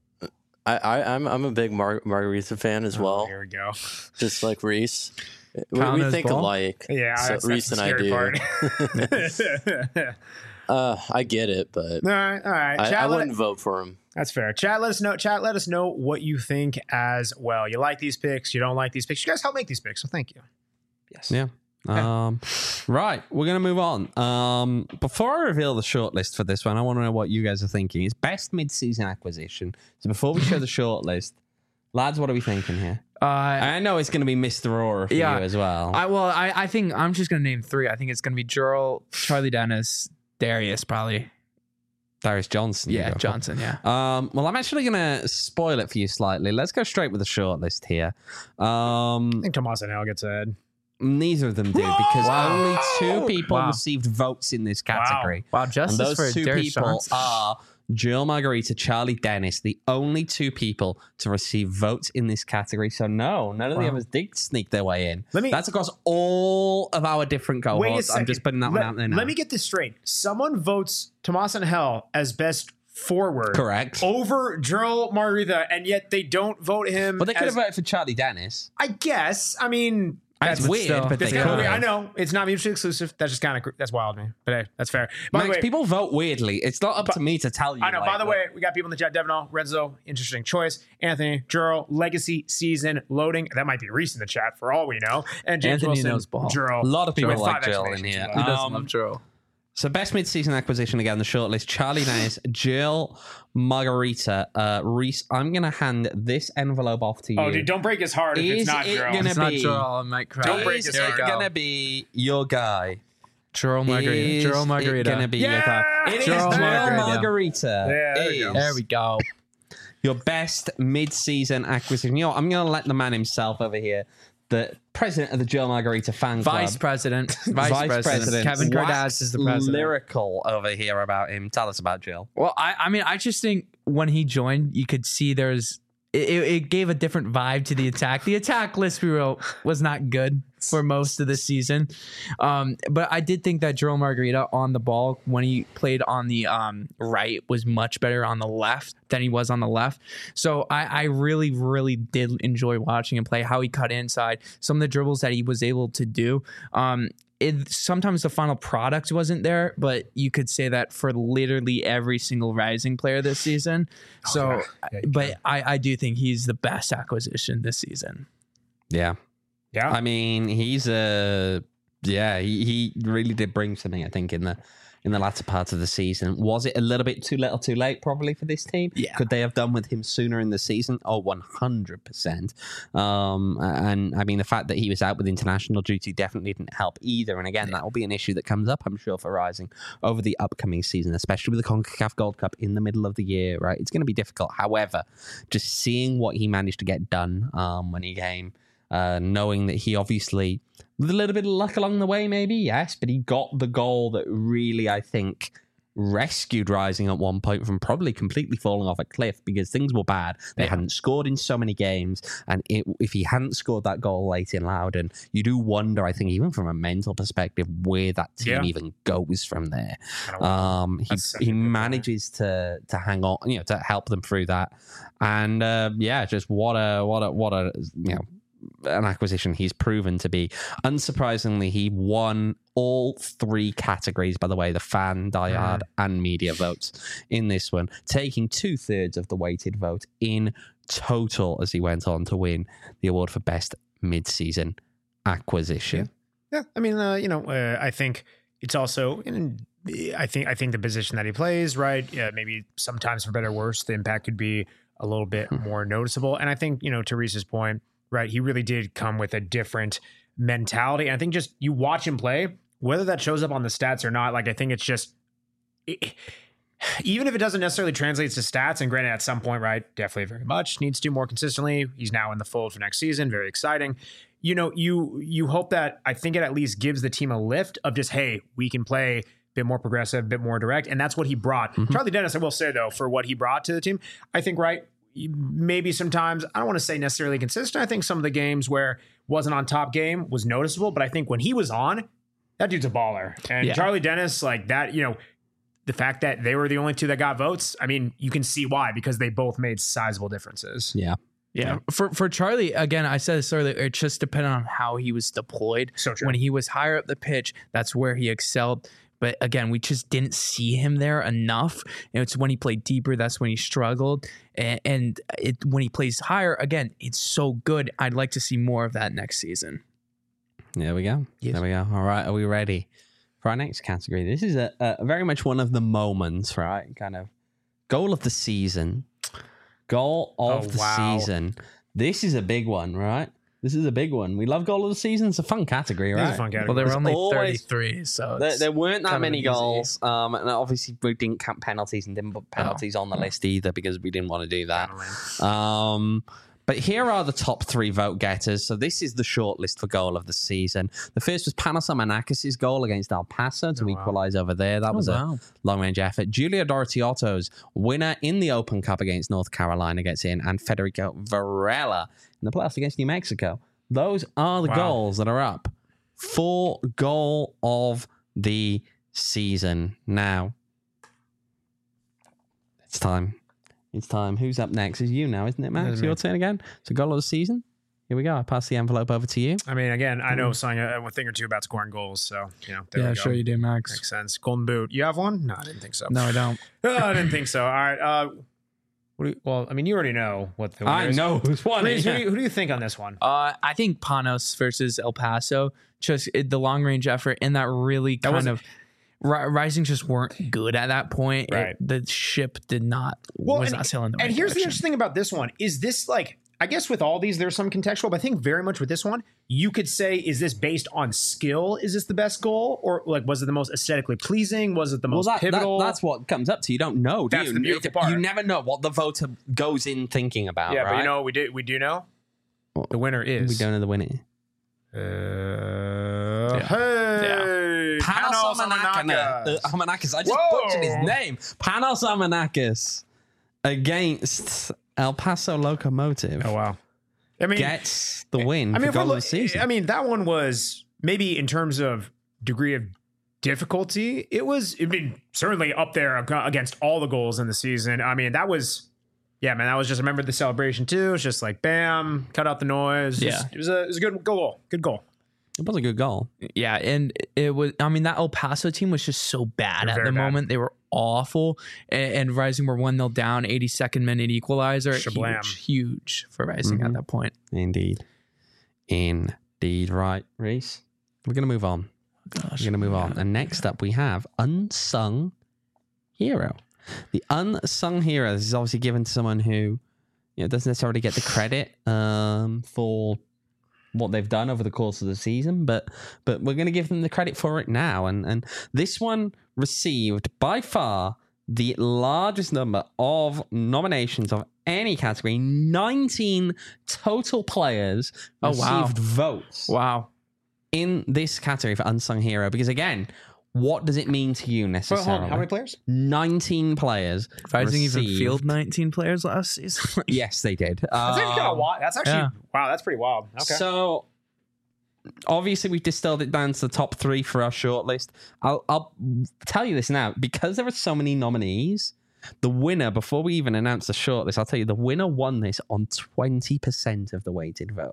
I, I I'm I'm a big Mar- Margarita fan as Oh, well, here we go. just like Reese. We, Kyle we knows think ball? alike. Yeah, So that's, Reese that's and I the do. scary part. Uh, I get it, but all right, all right. I, Chat, I let- wouldn't vote for him. That's fair. Chat, let us know. Chat, let us know what you think as well. You like these picks? You don't like these picks? You guys help make these picks, so thank you. Yes. Yeah. Um, right, we're gonna move on. Um, before I reveal the shortlist for this one, I want to know what you guys are thinking. It's best mid-season acquisition. So before we show the shortlist, lads, what are we thinking here? Uh, I know it's gonna be Mister Aurora for Yeah. you as well. I well, I, I think I'm just gonna name three. I think it's gonna be Jurl, Charlie Dennis, Darius, probably. Darius Johnson. you Yeah, go for. Johnson. Yeah. Um, well, I'm actually gonna spoil it for you slightly. Let's go straight with the shortlist here. Um, I think Tomas and Al gets ahead. neither of them do because Wow. only two people Wow. received votes in this category. Wow, And justice those for two Darius people Johnson. are Jill Margarita, Charlie Dennis, the only two people to receive votes in this category. So no, none of the Wow. others did sneak their way in. Let me- That's across all of our different Wait a cohorts. second. I'm just putting that let, one out there now. Let me get this straight. Someone votes Tomas and Hell as best forward Correct. over Jurl Margarita, and yet they don't vote him. But they could as, have voted for Charlie Dennis. I guess. I mean, That's that's weird, still- but they That's could kind of weird. I have. know it's not mutually exclusive. That's just kind of that's wild to me. But hey, that's fair. By the Max, way, people vote weirdly. It's not up But- to me to tell you. I know. like, By the but- way, we got people in the chat. Devonall, Renzo, interesting choice. Anthony, Jurl, legacy season loading. That might be Reese in the chat for all we know. And James Anthony Wilson, knows ball. Jurl. a lot of people with like five Jill in exclamations here. as well. Who doesn't Um, love Jurl? So best mid-season acquisition again, the shortlist: Charlie Dennis, Jill Margarita, uh, Reese. I'm gonna hand this envelope off to you. Oh, dude, don't break his heart if Is it's not it Jurl. gonna It's not be- Jurl. I might cry. Don't break Is his it heart. gonna be your guy? Jurl Margarita. Is Jurl it Margarita. gonna be your guy? Yeah! It is Jurl Jill Margarita. Margarita. Yeah, there we is go. There we go. your best mid-season acquisition. You know, what? I'm gonna let the man himself over here, the president of the Jill Margarita fan club. Vice president. Vice, president. Kevin wax Kardashian is the president. Lyrical over here about him. Tell us about Jill. Well, I, I mean, I just think when he joined, you could see there's it, it gave a different vibe to the attack. The attack list we wrote was not good for most of the season, um, but I did think that Jurl Margarita on the ball when he played on the um, right was much better on the left than he was on the left. So I, I really, really did enjoy watching him play. How he cut inside, some of the dribbles that he was able to do. Um, It, sometimes the final product wasn't there, but you could say that for literally every single Rising player this season. So, yeah. Yeah, you but I, I do think he's the best acquisition this season. Yeah. Yeah. I mean, he's a yeah. He, he really did bring something. I think in the in the latter part of the season. Was it a little bit too little, too late? Probably for this team. Yeah. Could they have done with him sooner in the season? Oh, one hundred percent. Um, and I mean, the fact that he was out with international duty definitely didn't help either. And again, that will be an issue that comes up, I'm sure, for Rising over the upcoming season, especially with the CONCACAF Gold Cup in the middle of the year. Right, it's going to be difficult. However, just seeing what he managed to get done um, when he came. Uh, knowing that he obviously, with a little bit of luck along the way, maybe, yes, but he got the goal that really, I think, rescued Rising at one point from probably completely falling off a cliff because things were bad. They Yeah. hadn't scored in so many games, and it, if he hadn't scored that goal late in Loudon, you do wonder, I think, even from a mental perspective, where that team Yeah. even goes from there. I don't know. Um, he That's such a he good point. manages to to hang on, you know, to help them through that, and uh, yeah, just what a what a what a you know an acquisition he's proven to be. Unsurprisingly, he won all three categories, by the way, the fan, diehard, mm. and media votes in this one, taking two-thirds of the weighted vote in total as he went on to win the award for best mid-season acquisition. Yeah, yeah. I mean, uh, you know, uh, I think it's also... In, I think I think the position that he plays, right? Yeah, maybe sometimes for better or worse, the impact could be a little bit more noticeable. And I think, you know, to Reese's point, right, he really did come with a different mentality. And I think just you watch him play, whether that shows up on the stats or not, like I think it's just, it, even if it doesn't necessarily translate to stats, and granted at some point, right, definitely very much needs to do more consistently. He's now in the fold for next season. Very exciting. You know, you you hope that, I think it at least gives the team a lift of just, hey, we can play bit more progressive, bit more direct. And that's what he brought. Mm-hmm. Charlie Dennis, I will say, though, for what he brought to the team, I think, right, maybe sometimes, I don't want to say necessarily consistent. I think some of the games where wasn't on top game was noticeable. But I think when he was on, that dude's a baller. And yeah. Charlie Dennis, like that, you know, the fact that they were the only two that got votes, I mean, you can see why, because they both made sizable differences. Yeah. Yeah. For for Charlie, again, I said this earlier, it just depended on how he was deployed. So true. When he was higher up the pitch, that's where he excelled. But again, we just didn't see him there enough. And it's when he played deeper, that's when he struggled. And, and it, when he plays higher, again, it's so good. I'd like to see more of that next season. There we go. Yes. There we go. All right. Are we ready for our next category? This is a, a very much one of the moments, right? Kind of goal of the season. Goal of oh, the wow. season. This is a big one, right? This is a big one. We love goal of the season. It's a fun category, right? It's a fun category. Well, there were There's only always, thirty-three, so there, there weren't that many goals. Um, and obviously, we didn't count penalties and didn't put penalties oh. on the list either because we didn't want to do that. Um, but here are the top three vote getters. So this is the short list for goal of the season. The first was Panos Amanakis' goal against El Paso to oh, equalize wow. over there. That oh, was wow. a long-range effort. Giulio Dorottiotto's winner in the Open Cup against North Carolina gets in, and Federico Varela in the playoffs against New Mexico. Those are the wow. goals that are up for goal of the season. Now, it's time. It's time. Who's up next? Is you now, isn't it, Max? Your turn again. So goal of the season. Here we go. I pass the envelope over to you. I mean, again, I know something, a thing or two about scoring goals, so you know. There yeah, we go. sure you do, Max. Makes sense. Golden boot. You have one? No, I didn't think so. No, I don't. oh, I didn't think so. All right. Uh, What do you, well, I mean, you already know what the I is. know who's won. Who, who, who do you think on this one? Uh, I think Panos versus El Paso, just it, the long range effort and that really kind that of ri- Rising just weren't good at that point. Right, it, the ship did not well, was and, not sailing the right And here's direction. the interesting thing about this one: is this like I guess with all these, there's some contextual, but I think very much with this one, you could say, is this based on skill? Is this the best goal? Or like, was it the most aesthetically pleasing? Was it the most well, that, pivotal? That, that's what comes up to. You don't know, do that's you? The beautiful part. You never know what the voter goes in thinking about, yeah, right? but you know, we do, we do know? The winner is... We don't know the winner. Uh, yeah. Hey! Yeah. Panos Amanakis. Uh, Amanakis. I just Whoa. butchered his name. Panos Amanakis against El Paso Locomotive. Oh, wow. I mean, gets the win I mean, for goal look, of the season. I mean, that one was maybe in terms of degree of difficulty, it was, I mean, certainly up there against all the goals in the season. I mean, that was, yeah, man, that was just, I remember the celebration too. It's just like, bam, cut out the noise. Yeah. It was, it was a, it was a good goal. Good goal. It was a good goal. Yeah, and it was, I mean, that El Paso team was just so bad at the bad. moment. They were awful. And, and Rising were one nil down, eighty-second minute equalizer. Shablam. Huge, huge for Rising mm-hmm. at that point. Indeed. Indeed. Right, Reese. We're going to move on. Gosh, We're going to move on. And next up, we have Unsung Hero. The Unsung Hero, this is obviously given to someone who, you know, doesn't necessarily get the credit um, for what they've done over the course of the season, but but we're going to give them the credit for it now. And and this one received by far the largest number of nominations of any category. nineteen total players oh, received wow. votes Wow. in this category for Unsung Hero. Because again, what does it mean to you necessarily? Well, hold on, how many players? nineteen players. Rising received... even field nineteen players last season. Yes, they did. That's um, actually kind of wild. That's actually, yeah. wow, that's pretty wild. Okay. So, obviously, we've distilled it down to the top three for our shortlist. I'll, I'll tell you this now. Because there are so many nominees, the winner, before we even announce the shortlist, I'll tell you, the winner won this on twenty percent of the weighted vote.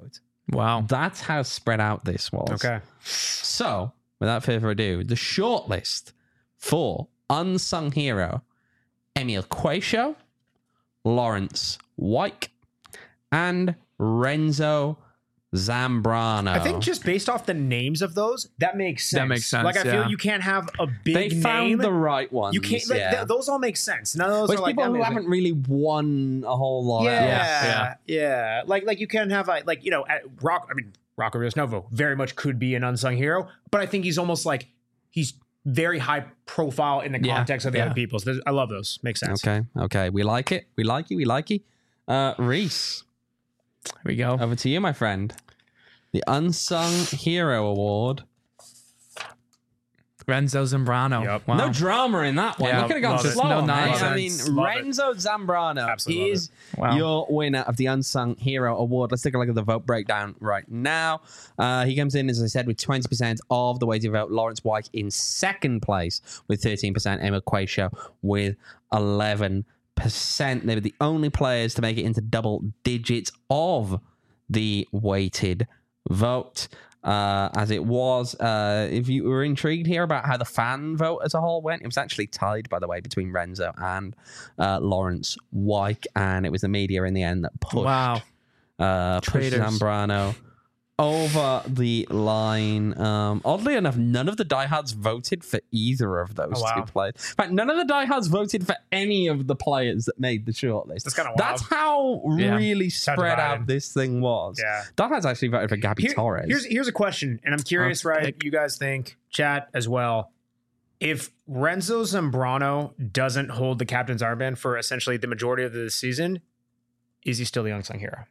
Wow. That's how spread out this was. Okay. So, without further ado, the shortlist for Unsung Hero, Emil Quaisho, Lawrence Wyke, and Renzo Zambrano. I think just based off the names of those, that makes sense. That makes sense, Like I feel yeah. you can't have a big they found name. the right ones. You can't. Like, yeah. th- those all make sense. None of those Which are like people who amazing. haven't really won a whole lot. Yeah, else. yeah, yeah. Like like you can have a, like you know at Rock. I mean Rocco Rios Novo very much could be an unsung hero, but I think he's almost like he's very high profile in the Yeah, context of the yeah. other people. So there's- I love those. Makes sense. Okay. Okay. We like it. We like you. We like you. Uh, Reese, Here we go. over to you, my friend. The Unsung Hero Award. Renzo Zambrano. Yep. Wow. No drama in that one. Yeah, you could have gone love it. slow. No No nonsense. I mean, Love it. Renzo Zambrano Absolutely love is Wow. your winner of the Unsung Hero Award. Let's take a look at the vote breakdown right now. Uh, he comes in, as I said, with twenty percent of the weighted vote. Lawrence Wyke in second place with thirteen percent. Emil Quaisho with eleven percent. They were the only players to make it into double digits of the weighted vote. Uh, as it was, uh, if you were intrigued here about how the fan vote as a whole went, it was actually tied, by the way, between Renzo and uh, Lawrence Wyke, and it was the media in the end that pushed, Wow. uh, pushed Traitors. Zambrano over the line. Um, oddly enough, none of the diehards voted for either of those Oh, wow. two players. In fact, none of the diehards voted for any of the players that made the shortlist. That's kinda wild. That's how Yeah. really How spread out divided. this thing was. Yeah. Diehards actually voted for Gabby Here- Torres. Here's here's a question, and I'm curious, Let's right? pick. You guys think, chat as well. If Renzo Zambrano doesn't hold the captain's armband for essentially the majority of the season, is he still the unsung hero?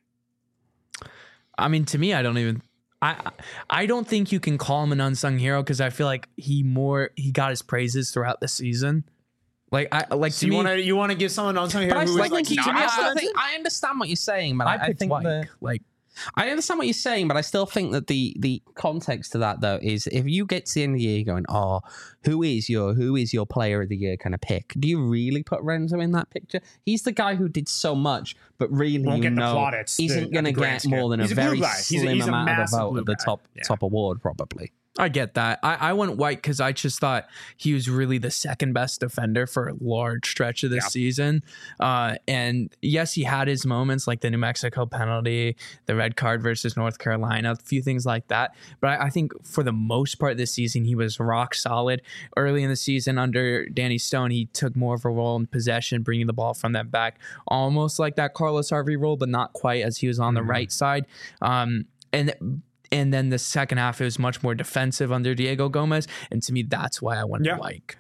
I mean, to me, I don't even. I I don't think you can call him an unsung hero because I feel like he more he got his praises throughout the season. Like I like So to you me, want to you want to give someone an unsung hero But I who still is like think, not to me, I, still talented? think I understand what you're saying, but I I, I picked think Wyke. the, Like I understand what you're saying, but I still think that the the context to that though is if you get to the end of the year going, oh, who is your who is your player of the year kind of pick? Do you really put Renzo in that picture? He's the guy who did so much, but really Won't you get the know plaudits, the- isn't at going to the grand get scale. more than He's a a blue very guy. He's a- slim he's a amount of a massive vote blue at the guy. top Yeah. top award probably. I get that. I, I went White because I just thought he was really the second best defender for a large stretch of this Yeah. season. Uh, and yes, he had his moments like the New Mexico penalty, the red card versus North Carolina, a few things like that. But I, I think for the most part this season, he was rock solid. Early in the season under Danny Stone, he took more of a role in possession, bringing the ball from that back, almost like that Carlos Harvey role, but not quite as he was on the right side. Um, and And then the second half, it was much more defensive under Diego Gomez. And to me, that's why I went Yeah. Wyke.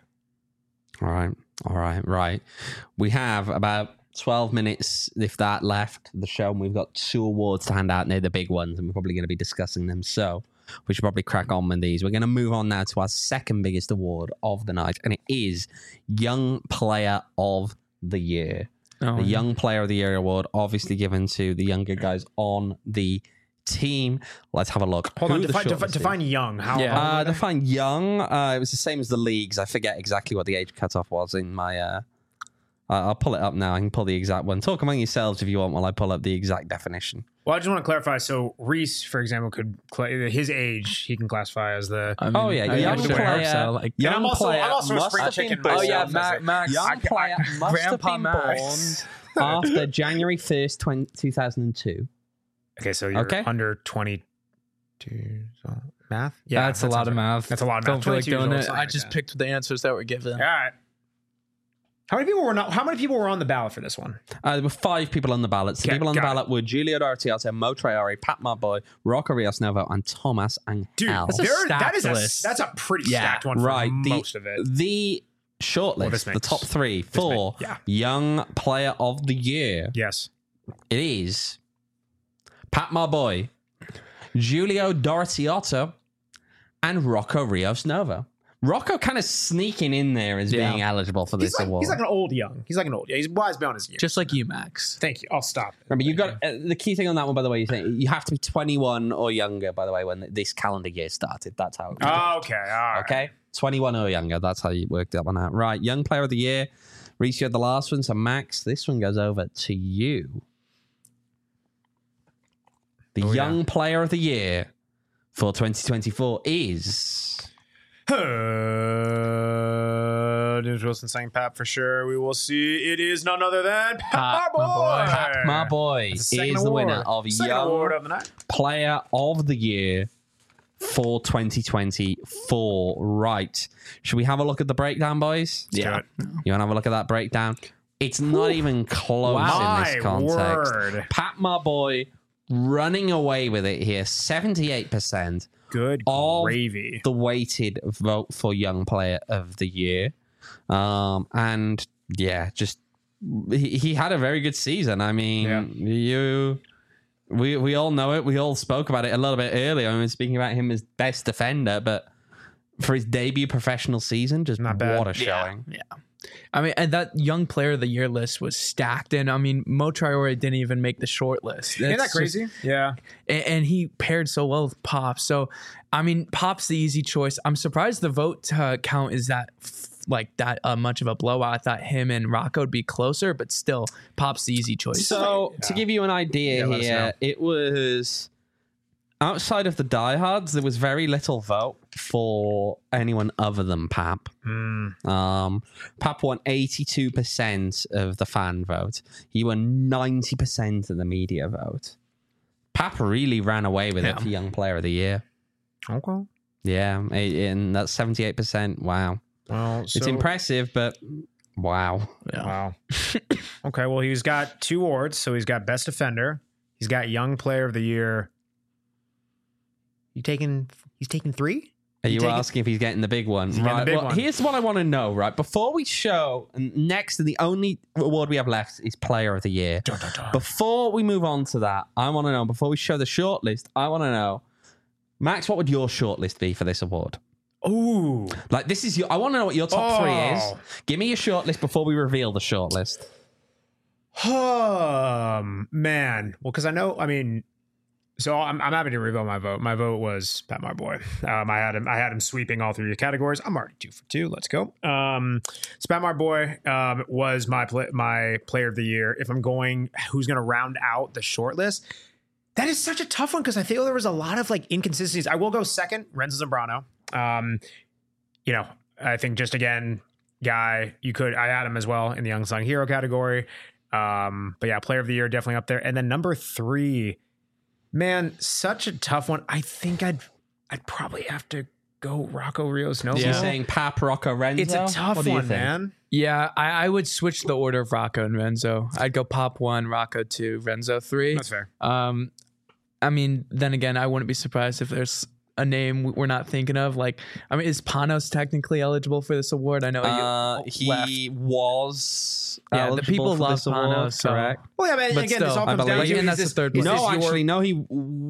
All right. All right. Right. We have about twelve minutes, if that, left the show, and we've got two awards to hand out, and they're the big ones, and we're probably going to be discussing them. So we should probably crack on with these. We're going to move on now to our second biggest award of the night, and it is Young Player of the Year. Oh, The yeah. Young Player of the Year award, obviously given to the younger guys on the team. Let's have a look. Hold Who on, the define, defi- shortlist is. define young. How? Yeah. how Uh, old are they? define young. Uh, it was the same as the leagues. I forget exactly what the age cutoff was in my. Uh, uh, I'll pull it up now. I can pull the exact one. Talk among yourselves if you want while I pull up the exact definition. Well, I just want to clarify. So Reese, for example, could cla his age he can classify as the. I mean, Oh, yeah, I young actually player. hope so. Like, Young I'm also- player I'm also a must spring have chicken been oh, yeah, myself, Ma- as a- Max. Young I- I- player must have Grandpa been Max. born after January first, two thousand two. Okay, so you're Okay. under twenty-two. So math. Yeah, that's a that lot sounds of right. math. That's a lot of Don't math. feel like twenty-two years doing old, it. something I like just that. picked the answers that were given. All right. How many people were not? How many people were on the ballot for this one? Uh, there were five people on the ballot. The Okay, people on the got it. ballot were Giulio D'Artiato, Mo Traore, Pat Marboy, Rocco Rios Novo, and Thomas Angel. Dude, That's a there, that stacked is a list. that's a pretty Yeah, stacked one for right. The, most of it. the shortlist, Well, this the makes- top three for makes- yeah. Young Player of the Year. Yes. It is Pat Marboy, Giulio D'Artiato, and Rocco Rios Novo. Rocco kind of sneaking in there as Yeah. being eligible for He's this like, award. he's like an old young. He's like an old. Yeah, he's wise beyond his years. Just like you, Max. Thank you. I'll stop. Remember, you got uh, the key thing on that one, by the way. You think you have to be twenty-one or younger, by the way, when this calendar year started. That's how it was. Oh, okay. All right. Okay, twenty-one or younger. That's how you worked that one out. Right, Young Player of the Year. Reese, you had the last one. So Max, this one goes over to you. The Oh, young yeah. player of the year for twenty twenty-four is... Uh, James Wilson saying Pap for sure. We will see. It is none other than Pat, Pat, my my boy. boy. Pat, my boy, That's is the second the award. winner of Second Young award of the night. Player of the Year for twenty twenty-four. Right. Should we have a look at the breakdown, boys? Let's do it. You want to have a look at that breakdown? It's not even close Wow. in this My context. word. Pat, my boy, running away with it here. seventy-eight percent Good of gravy. the weighted vote for Young Player of the Year. Um, and yeah, just he, he had a very good season. I mean, Yeah. you... We we all know it. We all spoke about it a little bit earlier. I was speaking about him as best defender, but for his debut professional season, just Not bad. what a showing. Yeah. I mean, and that young player of the year list was stacked. And I mean, Mo Traore didn't even make the short list. Isn't that That's crazy? just- yeah. and, and he paired so well with Pop. So, I mean, Pop's the easy choice. I'm surprised the vote uh, count is that f- like that uh, much of a blowout. I thought him and Rocco would be closer, but still, Pop's the easy choice. So to Yeah. give you an idea Yeah, let us know. here, it was outside of the diehards, there was very little vote for anyone other than Pap. Mm. Um, Pap won eighty-two percent of the fan vote. He won ninety percent of the media vote. Pap really ran away with Yeah. it for Young Player of the Year. Okay. Yeah, a- and that's seventy-eight percent. Wow. Well, It's so- impressive, but wow. Wow. Okay, well, he's got two awards. So he's got Best Defender. He's got Young Player of the Year. You taking? He's taking three. Are you take it? asking if he's getting the big one? he getting the Right. big Well, one? here's what I want to know, right? Before we show, and next, and the only award we have left is Player of the Year. Dun, dun, dun. Before we move on to that, I want to know, before we show the shortlist, I want to know, Max, what would your shortlist be for this award? Ooh. Like, this is your, I want to know what your top three is. Oh. Give me your shortlist before we reveal the shortlist. Um, man. Well, because I know, I mean, so I'm, I'm happy to reveal my vote. My vote was Pat My Boy. Um, I had him. I had him sweeping all three of the categories. I'm already two for two. Let's go. Um, so Pat My Boy um, was my play, my player of the year. If I'm going, who's going to round out the short list? That is such a tough one because I feel there was a lot of like inconsistencies. I will go second, Renzo Zambrano. Um, you know, I think just again, guy, you could, I had him as well in the unsung hero category. Um, but yeah, player of the year, definitely up there. And then number three, man, such a tough one. I think I'd, I'd probably have to go Rocco Rios. No, So Yeah. you're saying Pap, Rocco, Renzo? it's a tough What do you one, think? man. Yeah, I, I would switch the order of Rocco and Renzo. I'd go Pop one, Rocco two, Renzo three. That's fair. Um, I mean, then again, I wouldn't be surprised if there's a name we're not thinking of. Like, I mean, is Panos technically eligible for this award? I know Uh, you he left. was Yeah, the eligible people for love this award, Panos, so- correct? Well, yeah, man. But Again, still, this all I comes down believe- to and is that's the this, third is place. this No, your- actually, no, he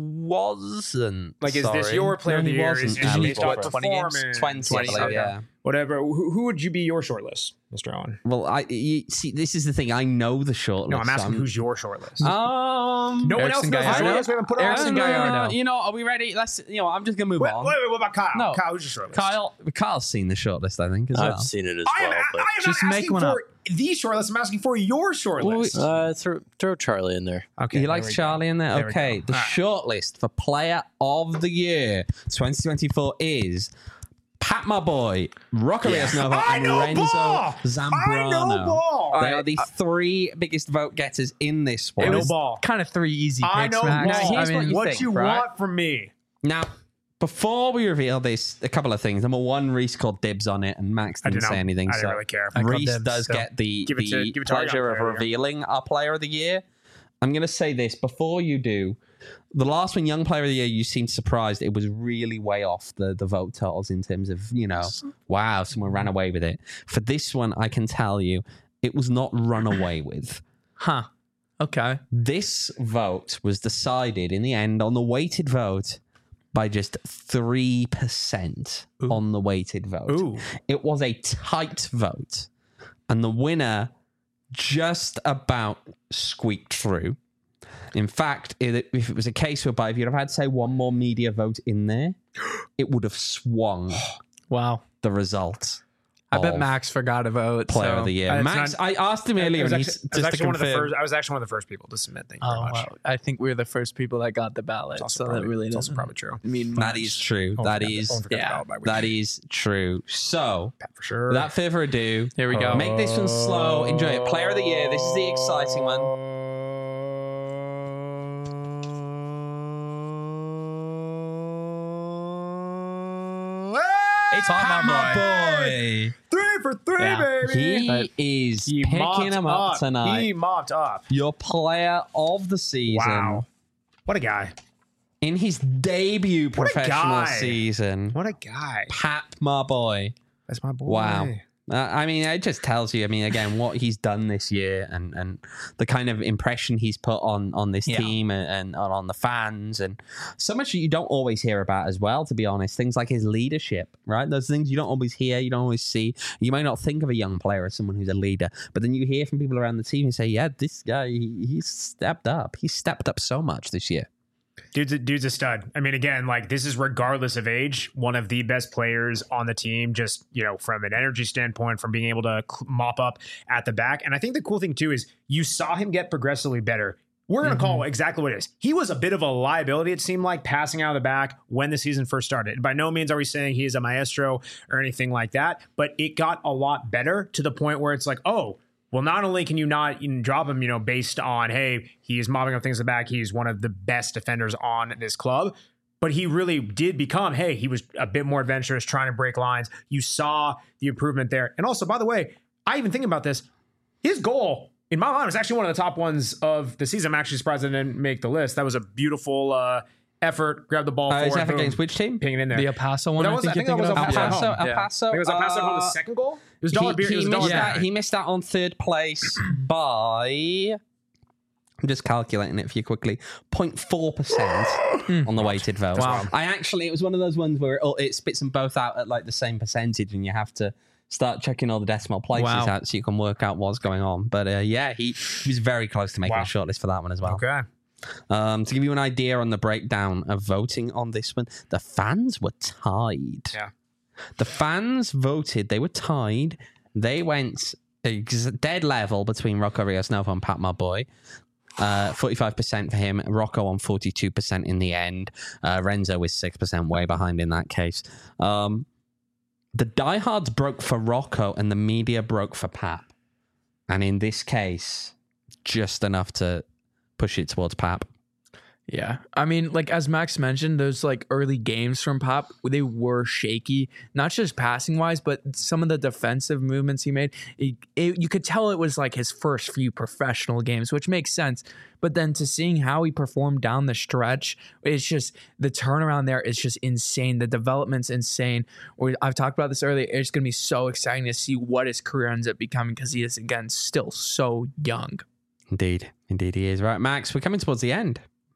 wasn't. Like, is this Sorry. your player No, of the he year? wasn't Is, is eligible based off for it. twenty games? performance? twenty, I believe, Okay. yeah. Whatever. Who, who would you be your short list, Mister Owen? Well, I you, see. This is the thing. I know the short No, list. I'm asking so who's your short list. Um, no one else Erickson knows the Gallardo. short list. We haven't put it on. Erickson no, no, no, Gallardo. no. You know, are we ready? Let's. You know, I'm just gonna move Wait, on. wait, wait, what about Kyle? No. Kyle, who's your short list? Kyle, Kyle's seen the short list, I think, as well. I've seen it as I am, well. I But am Just not make asking one for up. the short list. I'm asking for your short Well, list. uh, throw, throw Charlie in there. Okay, he there likes we go. Charlie in there. There we Okay, go. the All right. short list for Player of the Year twenty twenty-four is Pat, my boy, Rocco Rios Nova, I and know Renzo ball. Zambrano. I know ball. They are the three biggest vote getters in this I one. know was ball. kind of three easy picks, I know Max. ball. Here's I what mean, you what think, you right? want from me? Now, before we reveal this, a couple of things. Number one, Reese called dibs on it, and Max I didn't did say not. anything. I didn't so really care. I called Reese dibs, does so get the, give it to- the give it to our young pleasure of player, yeah. revealing our Player of the Year. I'm going to say this before you do. The last one, Young Player of the Year, you seemed surprised. It was really way off the, the vote totals in terms of, you know, wow, someone ran away with it. For this one, I can tell you, it was not run away with. Huh. Okay. This vote was decided in the end on the weighted vote by just three percent on the weighted vote. Ooh. It was a tight vote. And the winner just about squeaked through. In fact, it, if it was a case whereby if you'd have had, say, one more media vote in there, it would have swung Wow. the result. I bet of Max forgot to vote. Player so. of the year. Uh, Max, not- I asked him I earlier, was and actually, he's I was just to actually one of the confirm. first. I was actually one of the first people to submit. Thank you very Oh, much. wow. I think we were the first people that got the ballot. It's also So probably, that really it's doesn't also probably true. mean That much. is true. Don't That forget- is don't forget yeah, the ballot by week. that is true. So, Pat for sure. without further ado, Here we go. make this one slow. Enjoy it. Player of the year. This is the exciting one. It's Pat, my boy. Three for three, Yeah. baby. He is He picking mopped him up, tonight. He mopped up. Your player of the season. Wow. What a guy. In his debut What a professional guy. season. What a guy. Pat, my boy. That's my boy. Wow. Uh, I mean, it just tells you, I mean, again, what he's done this year and, and the kind of impression he's put on, on this Yeah. team and, and on the fans, and so much that you don't always hear about as well, to be honest. Things like his leadership, right? Those things you don't always hear, you don't always see. You might not think of a young player as someone who's a leader, but then you hear from people around the team who say, yeah, this guy, he, he's stepped up. He's stepped up so much this year. Dude's a, dude's a stud. I mean, again, like this is regardless of age, one of the best players on the team, just, you know, from an energy standpoint, from being able to cl- mop up at the back. And I think the cool thing too is you saw him get progressively better. We're going to call it exactly what it is. He was a bit of a liability, it seemed like, passing out of the back when the season first started. And by no means are we saying he is a maestro or anything like that, but it got a lot better to the point where it's like, oh, well, not only can you not even drop him, you know, based on, hey, he is mopping up things in the back, he's one of the best defenders on this club, but he really did become, hey, he was a bit more adventurous, trying to break lines. You saw the improvement there. And also, by the way, I even think about this, his goal, in my mind, was actually one of the top ones of the season. I'm actually surprised it didn't make the list. That was a beautiful uh, effort, grab the ball Uh, is forward, that boom, against which team? ping it in there. The El Paso one, That I was- think I you're think that thinking was of. El El Paso, El Yeah. Paso. I think it was El Paso on the uh, second goal. It was dollar he, beer. It he was missed dollar that, beer. he missed out on third place by, I'm just calculating it for you quickly, zero point four percent on the weighted vote. Wow. I actually, it was one of those ones where it, it spits them both out at like the same percentage, and you have to start checking all the decimal places Wow. out so you can work out what's going on. But uh, yeah, he, he was very close to making Wow. a shortlist for that one as well. Okay. Um, to give you an idea on the breakdown of voting on this one, the fans were tied. Yeah. The fans voted, they were tied. They went ex- dead level between Rocco Rios Novo and Pat My Boy. Uh, forty-five percent for him. Rocco on forty-two percent in the end. Uh, Renzo with six percent, way behind in that case. Um, the diehards broke for Rocco and the media broke for Pap. And in this case, just enough to push it towards Pap. Yeah. I mean, like as Max mentioned, those like early games from Pop, they were shaky, not just passing wise, but some of the defensive movements he made. It, it, you could tell it was like his first few professional games, which makes sense. But then to seeing how he performed down the stretch, it's just the turnaround there is just insane. The development's insane. We- I've talked about this earlier. It's going to be so exciting to see what his career ends up becoming because he is, again, still so young. Indeed. Indeed he is. Right, Max, we're coming towards the end.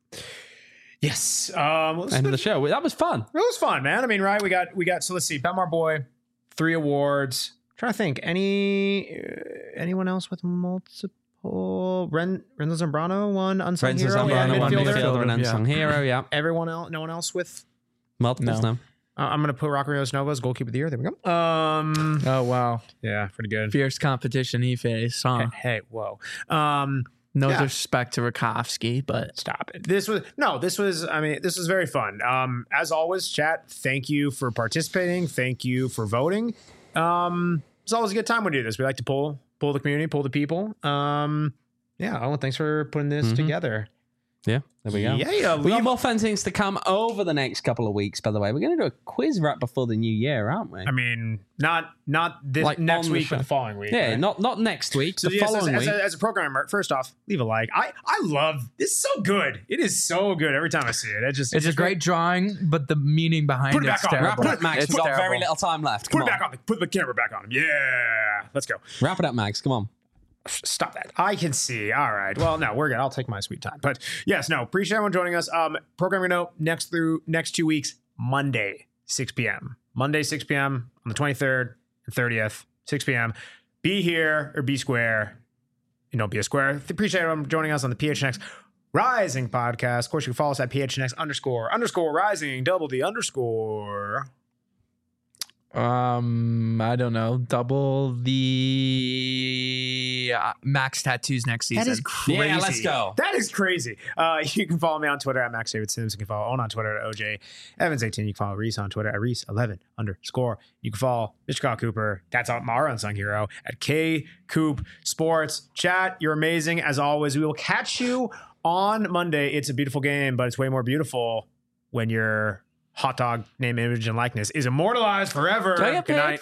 Yes. Um, let's End of the show. That was fun. It was fun, man. I mean, right? We got we got. So let's see. Bemar Boy, three awards. trying to think. Any uh, anyone else with multiple? Ren Renzo Zambrano won unsung Renzo hero. Zambrano, and one midfielder. midfielder and Yeah. unsung hero. Yeah. Everyone else. No one else with. Multiples No. now. Uh, I'm gonna put Rock Rios Nova as goalkeeper of the year. There we go. Um. Oh, wow. Yeah, pretty good. Fierce competition he faced, huh? Hey, hey, whoa. Um. No Yeah. disrespect to Rakowski, but Stop it. This was no, this was, I mean, this was very fun. Um, as always, chat, thank you for participating. Thank you for voting. Um, it's always a good time when we do this. We like to pull, pull the community, pull the people. Um, yeah. Oh, thanks for putting this Mhm. together. Yeah, there we go. Yeah, yeah. We got leave- more fun things to come over the next couple of weeks, by the way. We're going to do a quiz right before the new year, aren't we? I mean, not, not this Like next on the week, but show. the following week. yeah, right? not not next week, So the yes, as, following as, week. a, as a programmer, first off, leave a like. I, I love this. Is so good. It is so good every time I see it. It just it's a great drawing, but the meaning behind Put it it's back on. terrible. Wrap it up, Max. It's We've got very terrible. little time left. Put Come it on. back on. The, put the camera back on him. Yeah, let's go. Wrap it up, Max. Come on. Stop that. I can see. All right. Well, no, we're good. I'll take my sweet time. But yes, no, appreciate everyone joining us. Um, programming note next through next two weeks, Monday, six p.m. Monday, six p.m. on the twenty-third and thirtieth, six p.m. Be here or be square. You know, be a square. Appreciate everyone joining us on the P H N X Rising podcast. Of course, you can follow us at P H N X underscore underscore rising, double D underscore. Um, I don't know. Double the uh, max tattoos next season. That is crazy. Yeah, let's go. That is crazy. Uh, you can follow me on Twitter at Max David Sims. You can follow Owen on Twitter at O J Evans eighteen. You can follow Reese on Twitter at Reese eleven underscore. You can follow Mister Kyle Cooper. That's our unsung hero at K Coop Sports. Chat, you're amazing as always. We will catch you on Monday. It's a beautiful game, but it's way more beautiful when your hot dog name, image, and likeness is immortalized forever. Do I get Good paid? night.